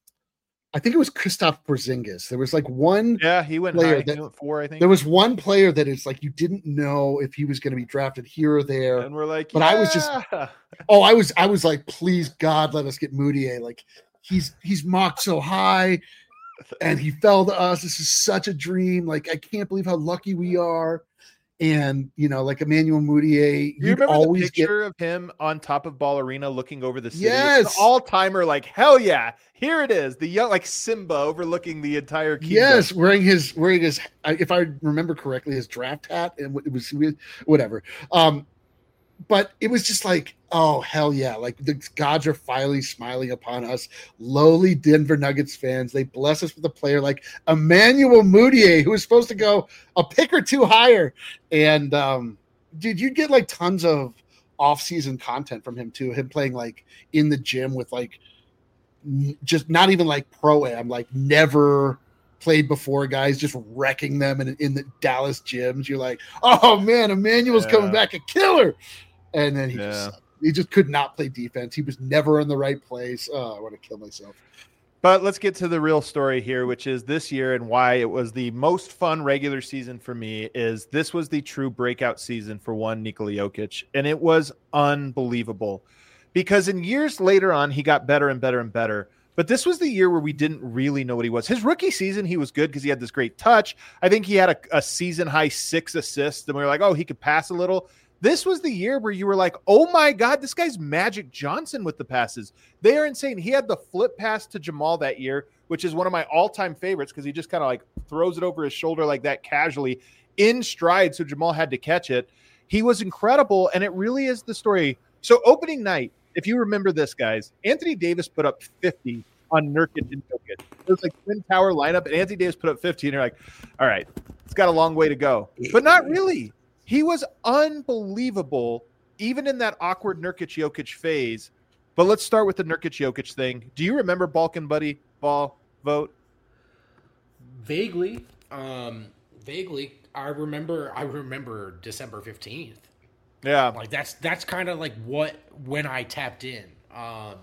I think it was Kristaps Porzingis. There was like one. Yeah, he went Player high. that- He went four, I think. There was one player that is like you didn't know if he was going to be drafted here or there. and we're like, But I was just- yeah. Oh, I was I was like, please God, let us get Mudiay. Like he's he's mocked so high, and he fell to us. This is such a dream. Like I can't believe how lucky we are. And you know, like Emmanuel Mudiay, You you'd remember the always get picture of him on top of Ball Arena looking over the city? Yes. It's an all-timer, like, hell yeah, here it is. The young, like Simba overlooking the entire kingdom. yes, wearing his wearing his if I remember correctly, his draft hat, and it was whatever. Um, but it was just like, oh hell yeah, like the gods are finally smiling upon us, lowly Denver Nuggets fans. They bless us with a player like Emmanuel Mudiay, who was supposed to go a pick or two higher. And um, dude, you'd get like tons of off-season content from him too. Him playing like in the gym with like n- just not even like pro am, like never played before guys, just wrecking them in, in the Dallas gyms. You're like, oh man, Emmanuel's Yeah. coming back a killer. And then he Yeah. just he just could not play defense. He was never in the right place. Oh, I want to kill myself. But let's get to the real story here, which is this year and why it was the most fun regular season for me. Is this was the true breakout season for one Nikola Jokic, and it was unbelievable because in years later on he got better and better and better. But this was the year where we didn't really know what he was. His rookie season, he was good because he had this great touch. I think he had a, a season high six assists, and we were like, oh, he could pass a little. This was the year where you were like, oh my God, this guy's Magic Johnson with the passes. They are insane. He had the flip pass to Jamal that year, which is one of my all-time favorites because he just kind of like throws it over his shoulder like that casually in stride. So Jamal had to catch it. He was incredible. And it really is the story. So opening night, if you remember this, guys, Anthony Davis put up fifty on Nurkic and Jokic. It was like twin tower lineup, and Anthony Davis put up fifty, and you're like, all right, it's got a long way to go. But not really. He was unbelievable, even in that awkward Nurkic-Jokic phase. But let's start with the Nurkic-Jokic thing. Do you remember Balkan Buddy Ball vote? Vaguely. Um, vaguely. I remember I remember December fifteenth. Yeah. Like that's that's kind of like what when I tapped in. Um,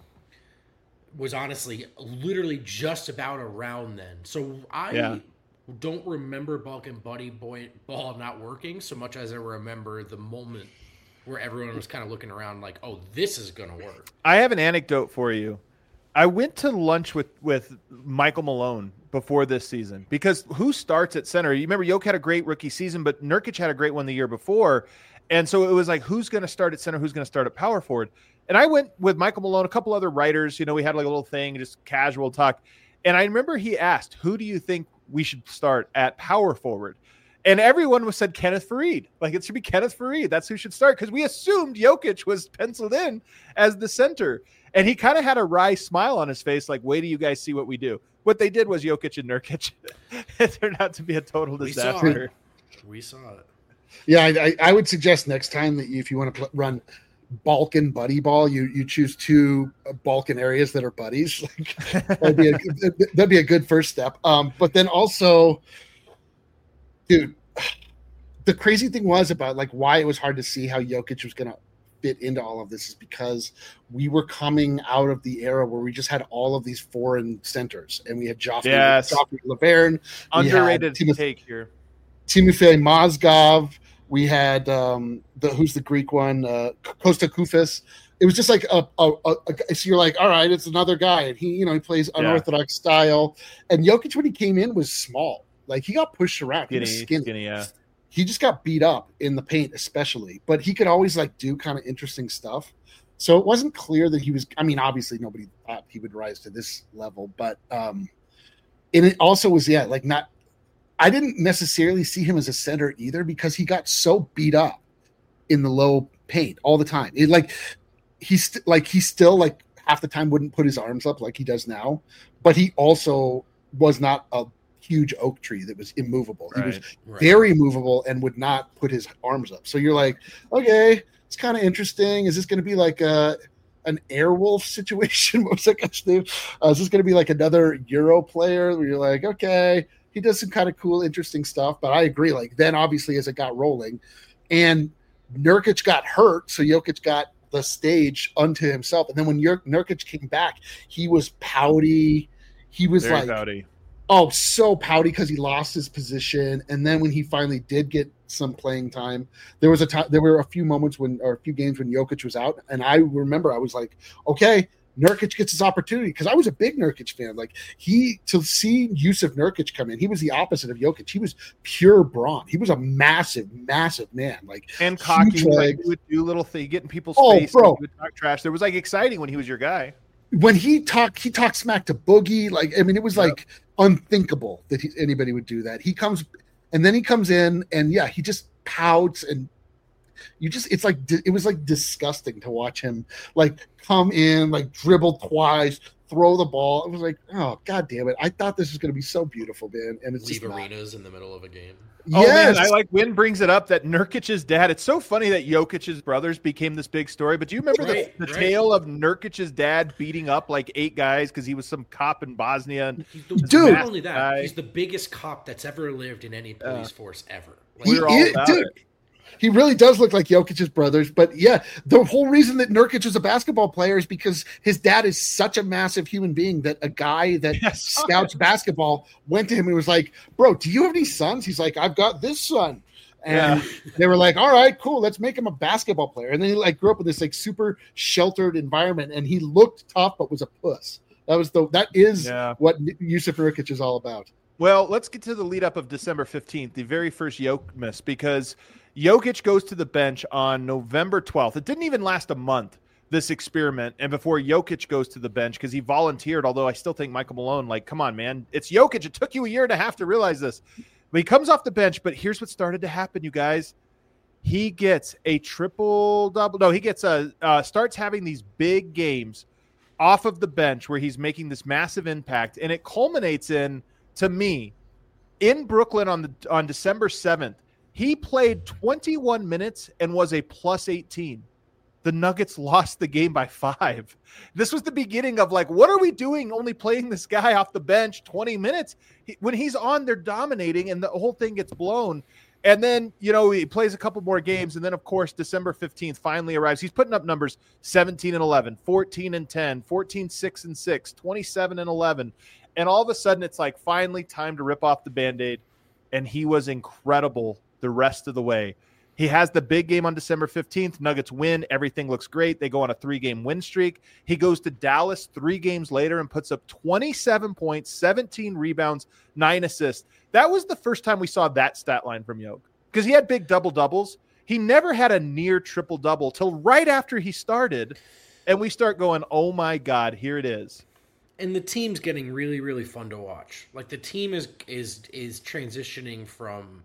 was honestly literally just about around then. So I yeah. don't remember Balkan Buddy Boy Ball not working so much as I remember the moment where everyone was kind of looking around like, oh, this is going to work. I have an anecdote for you. I went to lunch with, with Michael Malone before this season because who starts at center? You remember Jokic had a great rookie season, but Nurkic had a great one the year before. And so it was like, who's going to start at center? Who's going to start at power forward? And I went with Michael Malone, a couple other writers. You know, we had like a little thing, just casual talk. And I remember he asked, who do you think we should start at power forward? And everyone was said Kenneth Faried. Like, it should be Kenneth Faried. That's who should start because we assumed Jokic was penciled in as the center. And he kind of had a wry smile on his face, like, wait till you guys see what we do. What they did was Jokic and Nurkic. It turned out to be a total disaster. We saw it. We saw it. Yeah, I, I would suggest next time that you, if you want to pl- run Balkan buddy ball, you you choose two Balkan areas that are buddies. Like, that'd be a that'd be a good first step. Um, but then also, dude, the crazy thing was about like why it was hard to see how Jokic was going to fit into all of this is because we were coming out of the era where we just had all of these foreign centers, and we had Joffrey, yes. Joffrey Laverne, underrated Timothy, take here, Timofey Mozgov. We had um, the who's the Greek one, uh, Costa Koufis. It was just like a, a, a, a so you're like, all right, it's another guy, and he, you know, he plays unorthodox yeah. style. And Jokic, when he came in, was small. Like he got pushed around. Skinny, he was skinny. skinny, yeah. He just got beat up in the paint, especially. But he could always like do kind of interesting stuff. So it wasn't clear that he was. I mean, obviously, nobody thought he would rise to this level, but um, and it also was yeah, like not. I didn't necessarily see him as a center either because he got so beat up in the low paint all the time. It like he's st- like he still like half the time wouldn't put his arms up like he does now, but he also was not a huge oak tree that was immovable. Right, he was right. very movable and would not put his arms up. So you're like, okay, it's kind of interesting. Is this going to be like a an Airwolf situation? What was that guy's name? Uh, is this going to be like another Euro player where you're like, okay. He does some kind of cool, interesting stuff, but I agree. Like then, obviously, as it got rolling, and Nurkic got hurt, so Jokic got the stage unto himself. And then when Nur- Nurkic came back, he was pouty. He was Very like, pouty. oh, so pouty because he lost his position. And then when he finally did get some playing time, there was a time. There were a few moments when, or a few games when Jokic was out, and I remember I was like, okay. Nurkic gets his opportunity because I was a big Nurkic fan. Like he to see Yusuf Nurkic come in, he was the opposite of Jokic. He was pure brawn. He was a massive, massive man. Like and cocky, like, he would do little thing, get in people's oh, face. Bro. He would talk trash. There was like exciting when he was your guy. When he talked, he talked smack to Boogie. Like I mean, it was yep. like unthinkable that he, anybody would do that. He comes and then he comes in and yeah, he just pouts and. You just, it's like, it was like disgusting to watch him like come in, like dribble twice, throw the ball. It was like, oh, God damn it. I thought this was going to be so beautiful, man. And it's leave just arenas not. in the middle of a game. Oh, yes. man, I like Win brings it up that Nurkic's dad. It's so funny that Jokic's brothers became this big story. But do you remember right, the, the right. tale of Nurkic's dad beating up like eight guys because he was some cop in Bosnia? And dude, not only that, guy. he's the biggest cop that's ever lived in any police uh, force ever. Like, we were all is, about dude. it. He really does look like Jokic's brothers, but yeah, the whole reason that Nurkic is a basketball player is because his dad is such a massive human being that a guy that yes. scouts basketball went to him and was like, bro, do you have any sons? He's like, I've got this son. And yeah. they were like, all right, cool. Let's make him a basketball player. And then he like grew up in this like super sheltered environment and he looked tough, but was a puss. That was the, that is yeah. what Yusuf Nurkic is all about. Well, let's get to the lead up of December fifteenth, the very first Yoke miss, because Jokic goes to the bench on November twelfth. It didn't even last a month, this experiment, and before Jokic goes to the bench because he volunteered, although I still think Michael Malone, like, come on, man. It's Jokic. It took you a year and a half to realize this. But he comes off the bench, but here's what started to happen, you guys. He gets a triple-double. No, he gets a uh, starts having these big games off of the bench where he's making this massive impact, and it culminates in, to me, in Brooklyn on the on December seventh, he played twenty-one minutes and was a plus eighteen. The Nuggets lost the game by five. This was the beginning of like, what are we doing only playing this guy off the bench twenty minutes? He, when he's on, they're dominating, and the whole thing gets blown. And then, you know, he plays a couple more games, and then, of course, December fifteenth finally arrives. He's putting up numbers seventeen and eleven, fourteen and ten, fourteen, six and six, twenty-seven and eleven. And all of a sudden, it's like finally time to rip off the Band-Aid, and he was incredible the rest of the way. He has the big game on December fifteenth. Nuggets win. Everything looks great. They go on a three-game win streak. He goes to Dallas three games later and puts up twenty-seven points, seventeen rebounds, nine assists. That was the first time we saw that stat line from Yoke because he had big double-doubles. He never had a near triple-double till right after he started, and we start going, oh, my God, here it is. And the team's getting really, really fun to watch. Like, the team is is is transitioning from...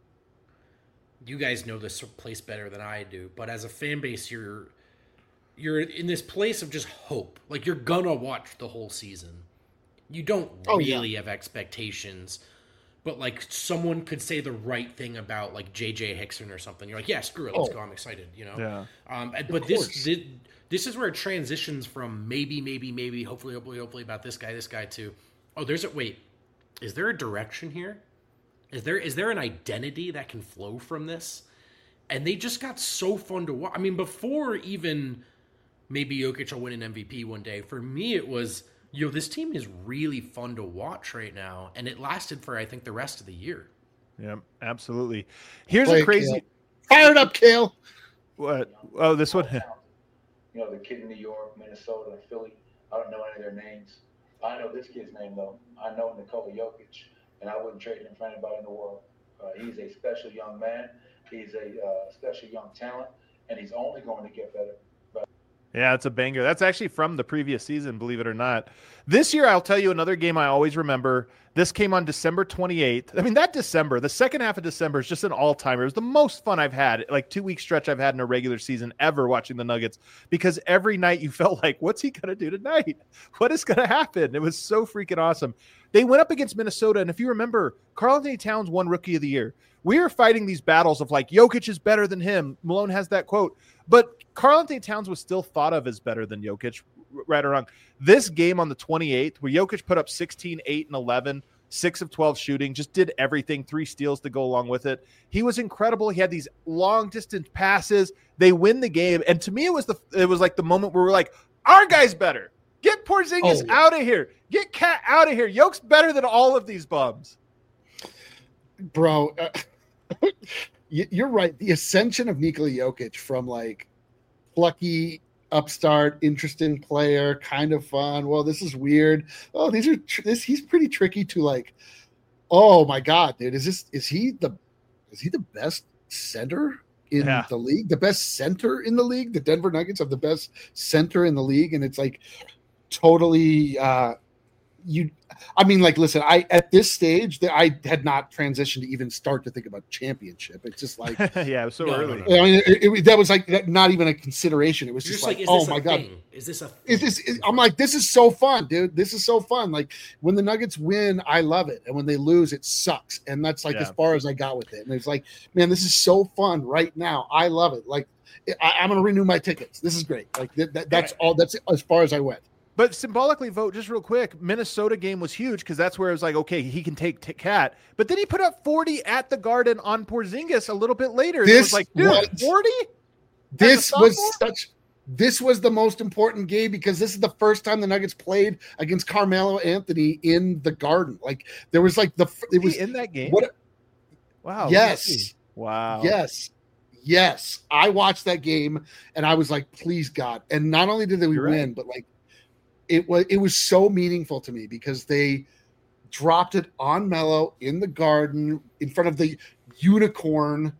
You guys know this place better than I do, but as a fan base, you're you're in this place of just hope. Like, you're gonna watch the whole season. You don't oh, really yeah. have expectations, but like someone could say the right thing about like J J Hickson or something. You're like, yeah, screw it, let's oh. go. I'm excited, you know. Yeah. Um, but this, this this is where it transitions from maybe, maybe, maybe, hopefully, hopefully, hopefully about this guy, this guy too. Oh, there's a wait. Is there a direction here? Is there is there an identity that can flow from this? And they just got so fun to watch. I mean, before even maybe Jokic will win an M V P one day, for me it was, yo, this team is really fun to watch right now. And it lasted for, I think, the rest of the year. Yeah, absolutely. Here's Play a crazy... Kale. Fired up, Kale. What? Oh, this one? You know, the kid in New York, Minnesota, Philly. I don't know any of their names. I know this kid's name, though. I know Nikola Jokic. And I wouldn't trade him for anybody in the world. Uh, he's a special young man. He's a uh, special young talent, and he's only going to get better. But- yeah, it's a banger. That's actually from the previous season, believe it or not. This year, I'll tell you another game I always remember. This came on December twenty-eighth. I mean, that December, the second half of December is just an all-timer. It was the most fun I've had, like two-week stretch I've had in a regular season ever watching the Nuggets, because every night you felt like, what's he going to do tonight? What is going to happen? It was so freaking awesome. They went up against Minnesota, and if you remember, Karl-Anthony Towns won Rookie of the Year. We were fighting these battles of like, Jokic is better than him. Malone has that quote. But Karl-Anthony Towns was still thought of as better than Jokic, right or wrong. This game on the twenty-eighth, where Jokic put up sixteen, eight, and eleven, six of twelve shooting, just did everything, three steals to go along with it. He was incredible. He had these long-distance passes. They win the game. And to me, it was the it was like the moment where we're like, our guy's better. Get Porzingis oh. out of here. Get Cat out of here. Yoke's better than all of these bums. Bro, uh, you're right. The ascension of Nikola Jokic from like plucky, upstart, interesting player, kind of fun. Well, this is weird. Oh, these are tr- this. He's pretty tricky to like. Oh my God, dude! Is this is he the is he the best center in yeah. the league? The best center in the league? The Denver Nuggets have the best center in the league, and it's like totally. Uh, you, I mean, like, listen. I at this stage that I had not transitioned to even start to think about championship. It's just like, yeah, it was so no, early. no, no. I mean, it, it, that was like not even a consideration. It was You're just, just like, like, is oh this my a God, thing? Is this a? is this? Is, I'm like, this is so fun, dude. This is so fun. Like when the Nuggets win, I love it, and when they lose, it sucks. And that's like Yeah. as far as I got with it. And it's like, man, this is so fun right now. I love it. Like I, I'm gonna renew my tickets. This is great. Like that, that, that's all. That's as far as I went. But symbolically, vote just real quick. Minnesota game was huge because that's where it was like, okay, he can take t- Cat. But then he put up forty at the Garden on Porzingis a little bit later. This it was like, dude, was, forty? This was such. This was the most important game because this is the first time the Nuggets played against Carmelo Anthony in the Garden. Like there was like the it was in that game. What? Wow. Yes. Wow. Yes. Yes. I watched that game and I was like, please God. And not only did we You're win, right. but like it was it was so meaningful to me because they dropped it on Melo in the Garden in front of the unicorn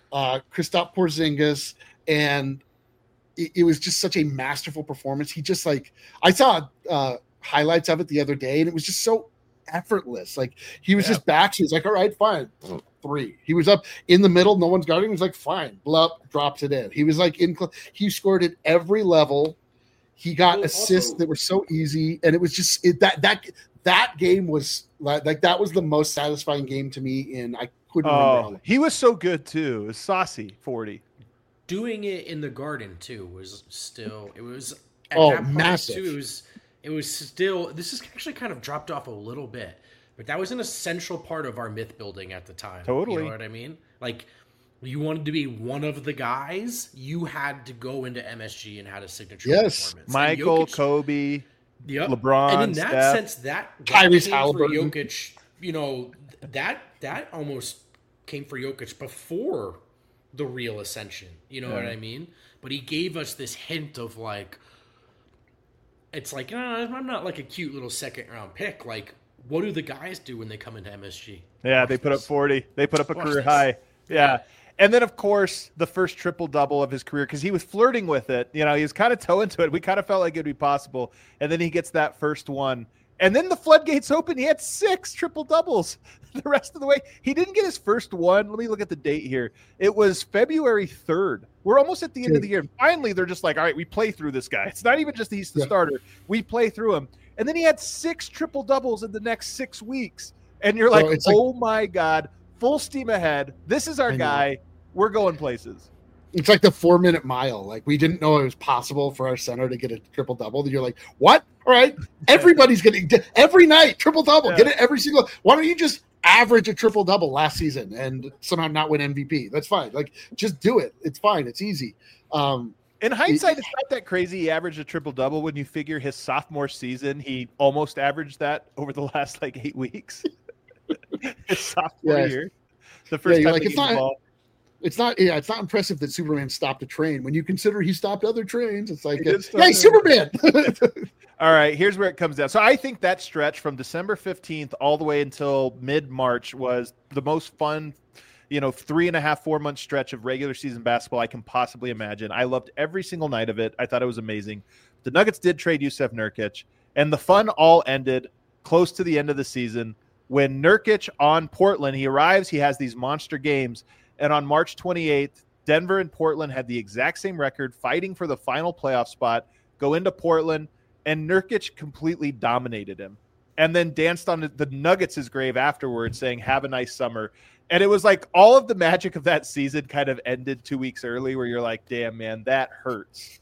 uh, Kristaps Porzingis, and it, it was just such a masterful performance. He just like I saw uh, highlights of it the other day, and it was just so effortless. Like he was Yeah. just back. He was like, all right, fine. Three. He was up in the middle. No one's guarding. He was like, fine. Blup, drops it in. He was like in. He scored at every level. He got Well, assists also- that were so easy, and it was just it, that that that game was like, like that was the most satisfying game to me. In I couldn't remember. How Oh, long. he was so good too. It was saucy forty. Doing it in the Garden too was still it was at Oh, that point, massive. too. It was it was still this is actually kind of dropped off a little bit, but that was an essential part of our myth building at the time. Totally. You know what I mean? Like you wanted to be one of the guys, you had to go into M S G and had a signature Yes. performance. And Michael, Jokic- Kobe, Yep. LeBron, and in that Steph. sense, that, that Tyrese came for Halliburton. Jokic. You know that that almost came for Jokic before the real ascension. You know what Yeah. I mean? But he gave us this hint of like, it's like uh, I'm not like a cute little second round pick. Like, what do the guys do when they come into M S G? Yeah, Watch they put up this. forty. They put up a Watch career this. high. Yeah. And then, of course, the first triple double of his career because he was flirting with it. You know, he was kind of toe into it. We kind of felt like it'd be possible. And then he gets that first one. And then the floodgates open. He had six triple doubles the rest of the way. He didn't get his first one. Let me look at the date here. It was February third. We're almost at the end of the year. And finally, they're just like, all right, we play through this guy. It's not even just he's the Yeah. starter. We play through him. And then he had six triple doubles in the next six weeks. And you're like, So it's like- oh my God, full steam ahead. This is our I know. guy. We're going places. It's like the four minute mile. Like we didn't know it was possible for our center to get a triple double. You're like, what? All right, everybody's getting every night triple double. Yeah. Get it every single. Why don't you just average a triple double last season and somehow not win M V P? That's fine. Like just do it. It's fine. It's easy. Um, In hindsight, it's not that crazy. He averaged a triple double when you figure his sophomore season, he almost averaged that over the last like eight weeks. His sophomore Yeah. year. The first you're time like, he it's gave the not- ball. it's not. Yeah, it's not impressive that Superman stopped a train. When you consider he stopped other trains, it's like, He did uh, stop yeah, he's it. Superman. All right, here's where it comes down. So I think that stretch from December fifteenth all the way until mid-March was the most fun, you know, three and a half, four month stretch of regular season basketball I can possibly imagine. I loved every single night of it. I thought it was amazing. The Nuggets did trade Yusef Nurkic, and the fun all ended close to the end of the season when Nurkic on Portland, he arrives, he has these monster games, and on March twenty-eighth, Denver and Portland had the exact same record, fighting for the final playoff spot, go into Portland, and Nurkic completely dominated him and then danced on the Nuggets' grave afterwards saying, have a nice summer. And it was like all of the magic of that season kind of ended two weeks early where you're like, damn, man, that hurts.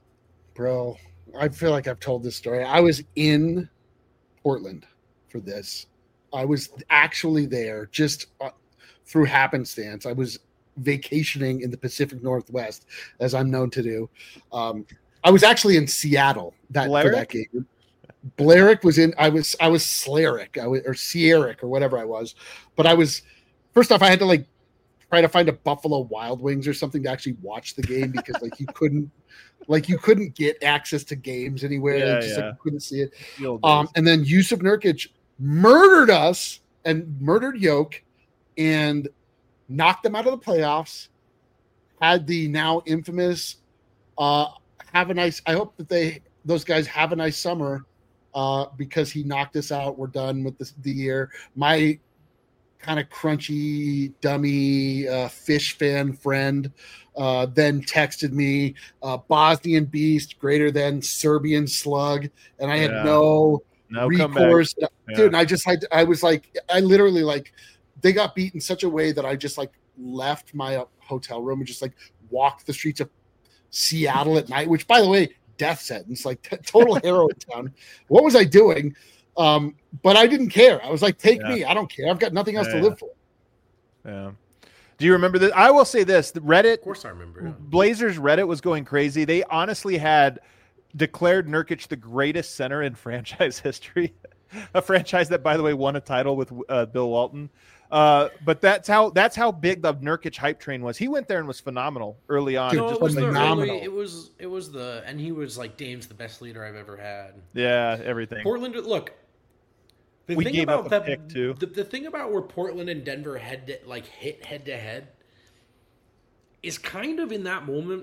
Bro, I feel like I've told this story. I was in Portland for this. I was actually there just uh, through happenstance. I was vacationing in the Pacific Northwest, as I'm known to do. Um, I was actually in Seattle that for that Blarick? game. Blarick was in. I was. I was Slarick. I was or Sierrick or whatever I was. But I was. First off, I had to like try to find a Buffalo Wild Wings or something to actually watch the game because like you couldn't, like you couldn't get access to games anywhere. Yeah, just yeah. like you couldn't see it. The old Um, days. and then Yusuf Nurkic murdered us and murdered Yoke and knocked them out of the playoffs. Had the now infamous uh, have a nice. I hope that they those guys have a nice summer uh, because he knocked us out. We're done with this, the year. My kind of crunchy, dummy uh, fish fan friend uh, then texted me uh, Bosnian beast greater than Serbian slug, and I had Yeah. no no comeback. recourse, Yeah. dude. And I just had, I was like, I literally like, they got beat in such a way that I just like left my uh, hotel room and just like walked the streets of Seattle at night. Which, by the way, death sentence, like t- total heroin town. What was I doing? Um, but I didn't care. I was like, take Yeah. me. I don't care. I've got nothing else Yeah. to live for. Yeah. Do you remember this? I will say this: the Reddit, Of course, I remember. Yeah. Blazers Reddit was going crazy. They honestly had declared Nurkic the greatest center in franchise history. A franchise that, by the way, won a title with uh, Bill Walton. Uh, but that's how that's how big the Nurkic hype train was. He went there and was phenomenal early on. Dude, and No, just it was like, the phenomenal. early, it was it was the and he was like Dame's the best leader I've ever had. yeah, everything. Portland, look. The We thing gave about up a that, pick, too. The, the thing about where Portland and Denver had to, like hit head to head, is kind of in that moment,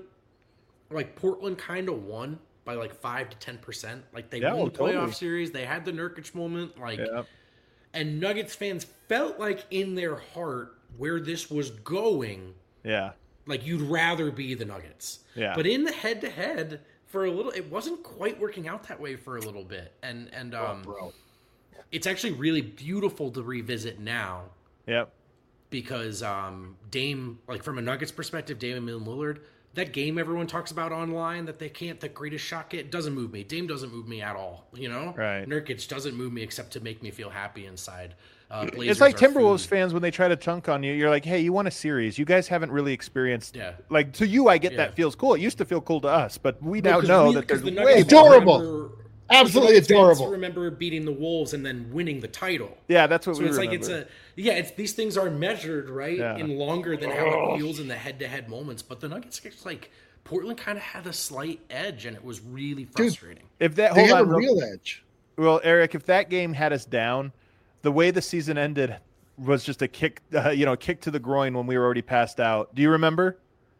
like Portland kind of won by like five to ten percent. Like they Yeah, won oh, the playoff totally. series, they had the Nurkic moment, like, Yeah. and Nuggets fans felt like in their heart where this was going, Yeah. like you'd rather be the Nuggets. Yeah. But in the head to head, for a little, it wasn't quite working out that way for a little bit, and and um, Oh, bro. it's actually really beautiful to revisit now. Yep. Because um, Dame, like from a Nuggets perspective, Dame and Lillard, that game everyone talks about online that they can't, the greatest shot get, doesn't move me. Dame doesn't move me at all, you know? Right. Nurkic doesn't move me except to make me feel happy inside. Uh, It's Blazers like are Timberwolves food. fans when they try to chunk on you. You're like, hey, you won a series. You guys haven't really experienced. Yeah. Like to you, I get Yeah. that feels cool. It used to feel cool to us, but we No, now 'cause know we- that 'cause there's the way Nuggets more. Adorable. remember- Absolutely the Nuggets fans adorable. remember beating the Wolves and then winning the title. Yeah, that's what So we it's remember. like it's a yeah. It's these things are measured right Yeah. in longer than how it feels in the head-to-head moments. But the Nuggets, it's like Portland kind of had a slight edge, and it was really frustrating. if that They hold had on, a real- real edge. well, Eric, if that game had us down, the way the season ended was just a kick, uh, you know, kick to the groin when we were already passed out. Do you remember?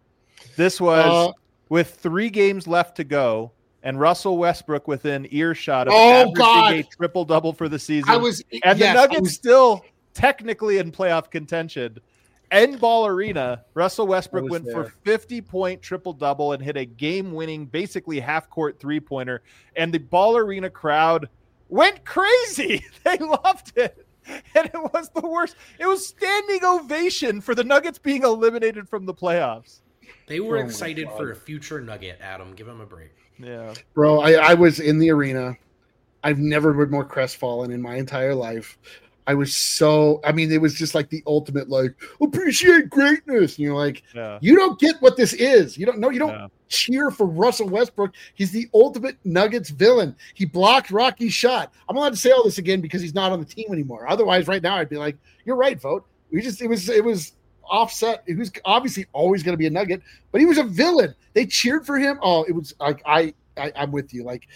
This was Uh, with three games left to go, and Russell Westbrook within earshot of Oh, averaging God. a triple double for the season. I was, and the yes, I Nuggets was- still technically in playoff contention. End Ball Arena, Russell Westbrook was went for there. fifty point triple double and hit a game winning, basically half court three pointer. And the Ball Arena crowd went crazy. They loved it. And it was the worst. It was standing ovation for the Nuggets being eliminated from the playoffs. They were Oh my excited God. for a future Nugget. Adam, give him a break. Yeah. Bro, I, I was in the arena. I've never been more crestfallen in my entire life. I was so, I mean, it was just like the ultimate, like, appreciate greatness. And you're like, Yeah. you don't get what this is. You don't know, you don't Yeah. cheer for Russell Westbrook. He's the ultimate Nuggets villain. He blocked Rocky's shot. I'm allowed to say all this again because he's not on the team anymore. Otherwise, right now, I'd be like, you're right, vote. We just, it was, it was offset. He was obviously always going to be a Nugget, but he was a villain. They cheered for him. Oh, it was like, I, I I'm with you. Like,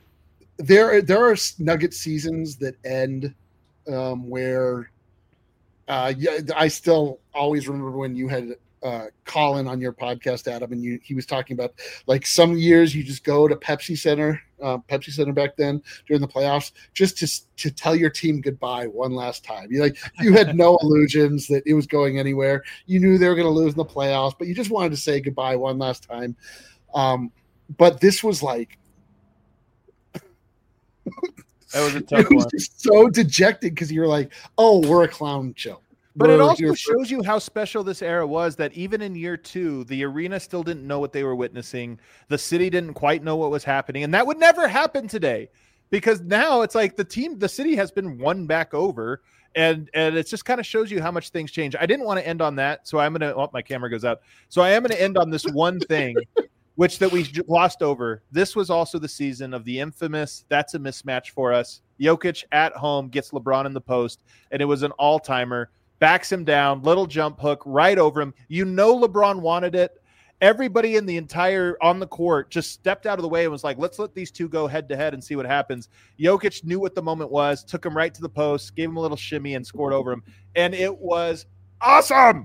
there, there are Nugget seasons that end um, where uh, yeah, I still always remember when you had uh, Colin on your podcast, Adam, and you he was talking about like some years you just go to Pepsi Center, uh, Pepsi Center back then during the playoffs, just to to tell your team goodbye one last time. You like you had no illusions that it was going anywhere. You knew they were going to lose in the playoffs, but you just wanted to say goodbye one last time. Um, but this was like. That was a tough It was one. just so dejected because you're like, oh, we're a clown show. But it We're also here for- shows you how special this era was, that even in year two, the arena still didn't know what they were witnessing. The city didn't quite know what was happening. And that would never happen today, because now it's like the team, the city has been won back over. And and it just kind of shows you how much things change. I didn't want to end on that. So I'm going to, oh, my camera goes out. So I am going to end on this one thing, which that we glossed over. This was also the season of the infamous, that's a mismatch for us. Jokic at home gets LeBron in the post, and it was an all-timer. Backs him down, little jump hook right over him. You know LeBron wanted it. Everybody in the entire on the court just stepped out of the way and was like, let's let these two go head-to-head and see what happens. Jokic knew what the moment was, took him right to the post, gave him a little shimmy, and scored over him. And it was awesome.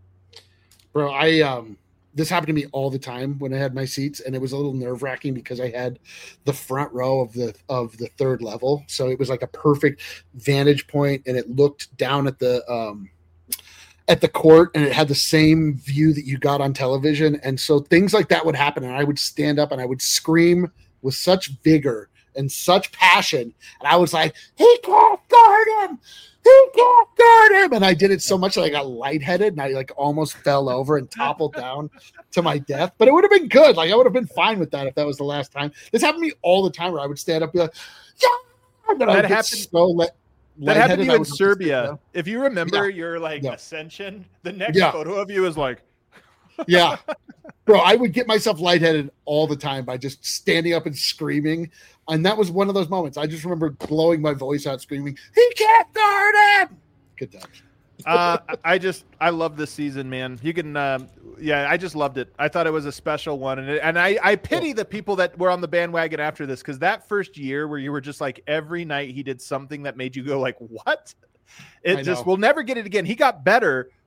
Bro, I um this happened to me all the time when I had my seats, and it was a little nerve-wracking because I had the front row of the of the third level. So it was like a perfect vantage point, and it looked down at the um at the court, and it had the same view that you got on television. And so things like that would happen, and I would stand up and I would scream with such vigor and such passion. And I was like, he can't guard him. He can't guard him. And I did it so much that I got lightheaded and I like almost fell over and toppled down to my death. But it would have been good. Like I would have been fine with that if that was the last time. This happened to me all the time where I would stand up and be like, yeah. And then I That would get happened- so let, That happened to lightheaded, you I in would have to sit Serbia. down. If you remember Yeah. your like Yeah. ascension, the next Yeah. photo of you is like, Yeah. Bro, I would get myself lightheaded all the time by just standing up and screaming. And that was one of those moments. I just remember blowing my voice out screaming, he can't guard him. Good times. uh, I just I love this season, man. You can, um, yeah, I just loved it. I thought it was a special one, and it, and I I pity the people that were on the bandwagon after this, because that first year where you were just like every night he did something that made you go like, what? It I just know. we'll never get it again. He got better,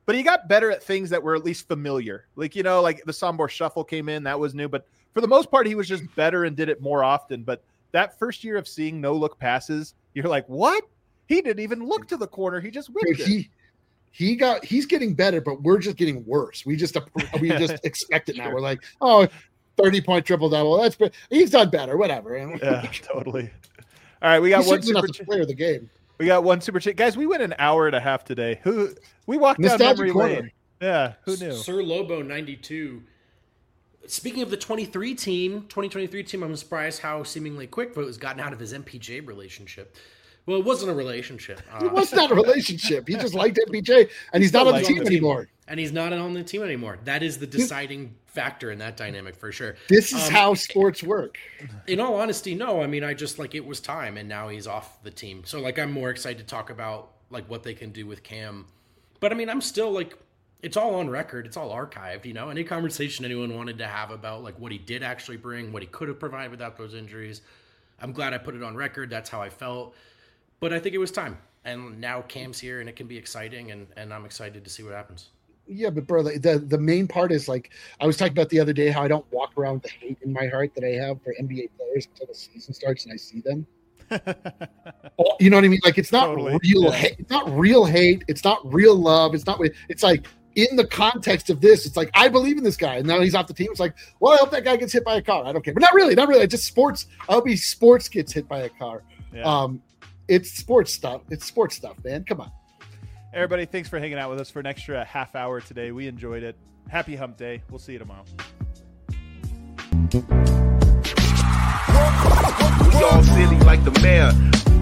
but he got better at things that were at least familiar. Like, you know, like the Sombor Shuffle came in, that was new, but for the most part, he was just better and did it more often. But that first year of seeing no look passes, you're like, what? He didn't even look to the corner. He just whipped Dude, he, it. He got, he's getting better, but we're just getting worse. We just, we just expect it now. Sure. We're like, oh, thirty point triple double. That's, he's done better. Whatever. Yeah, totally. All right. We got he's one super super ch- player of the game. We got one super chat. Guys, we went an hour and a half today. Who we walked down Nostalgia memory corner. lane. Yeah, who knew? Sir Lobo ninety-two. Speaking of the twenty-three team, twenty twenty-three team, I'm surprised how seemingly quick Vogt has gotten out of his M P J relationship. Well, it wasn't a relationship. Uh, It was not a relationship. He just liked M P J, and he's not on the liked team him. anymore. and he's not on the team anymore. That is the deciding factor in that dynamic for sure. This is Um, how sports work. In all honesty, no. I mean, I just like it was time, and now he's off the team. So like, I'm more excited to talk about like what they can do with Cam. But I mean, I'm still like, it's all on record. It's all archived. You know, any conversation anyone wanted to have about like what he did actually bring, what he could have provided without those injuries. I'm glad I put it on record. That's how I felt. But I think it was time. And now Cam's here, and it can be exciting, and, and I'm excited to see what happens. Yeah, but bro, the, the the main part is like I was talking about the other day how I don't walk around with the hate in my heart that I have for N B A players until the season starts and I see them. You know what I mean? Like it's not Totally, real yeah. hate. It's not real hate. It's not real love. It's not. It's like in the context of this, it's like I believe in this guy, and now he's off the team. It's like, well, I hope that guy gets hit by a car. I don't care, but not really, not really. It's just sports. I hope he sports gets hit by a car. Yeah. Um, it's sports stuff. It's sports stuff, man. Come on. Everybody, thanks for hanging out with us for an extra half hour today. We enjoyed it. Happy hump day. We'll see you tomorrow. We all silly like the mayor.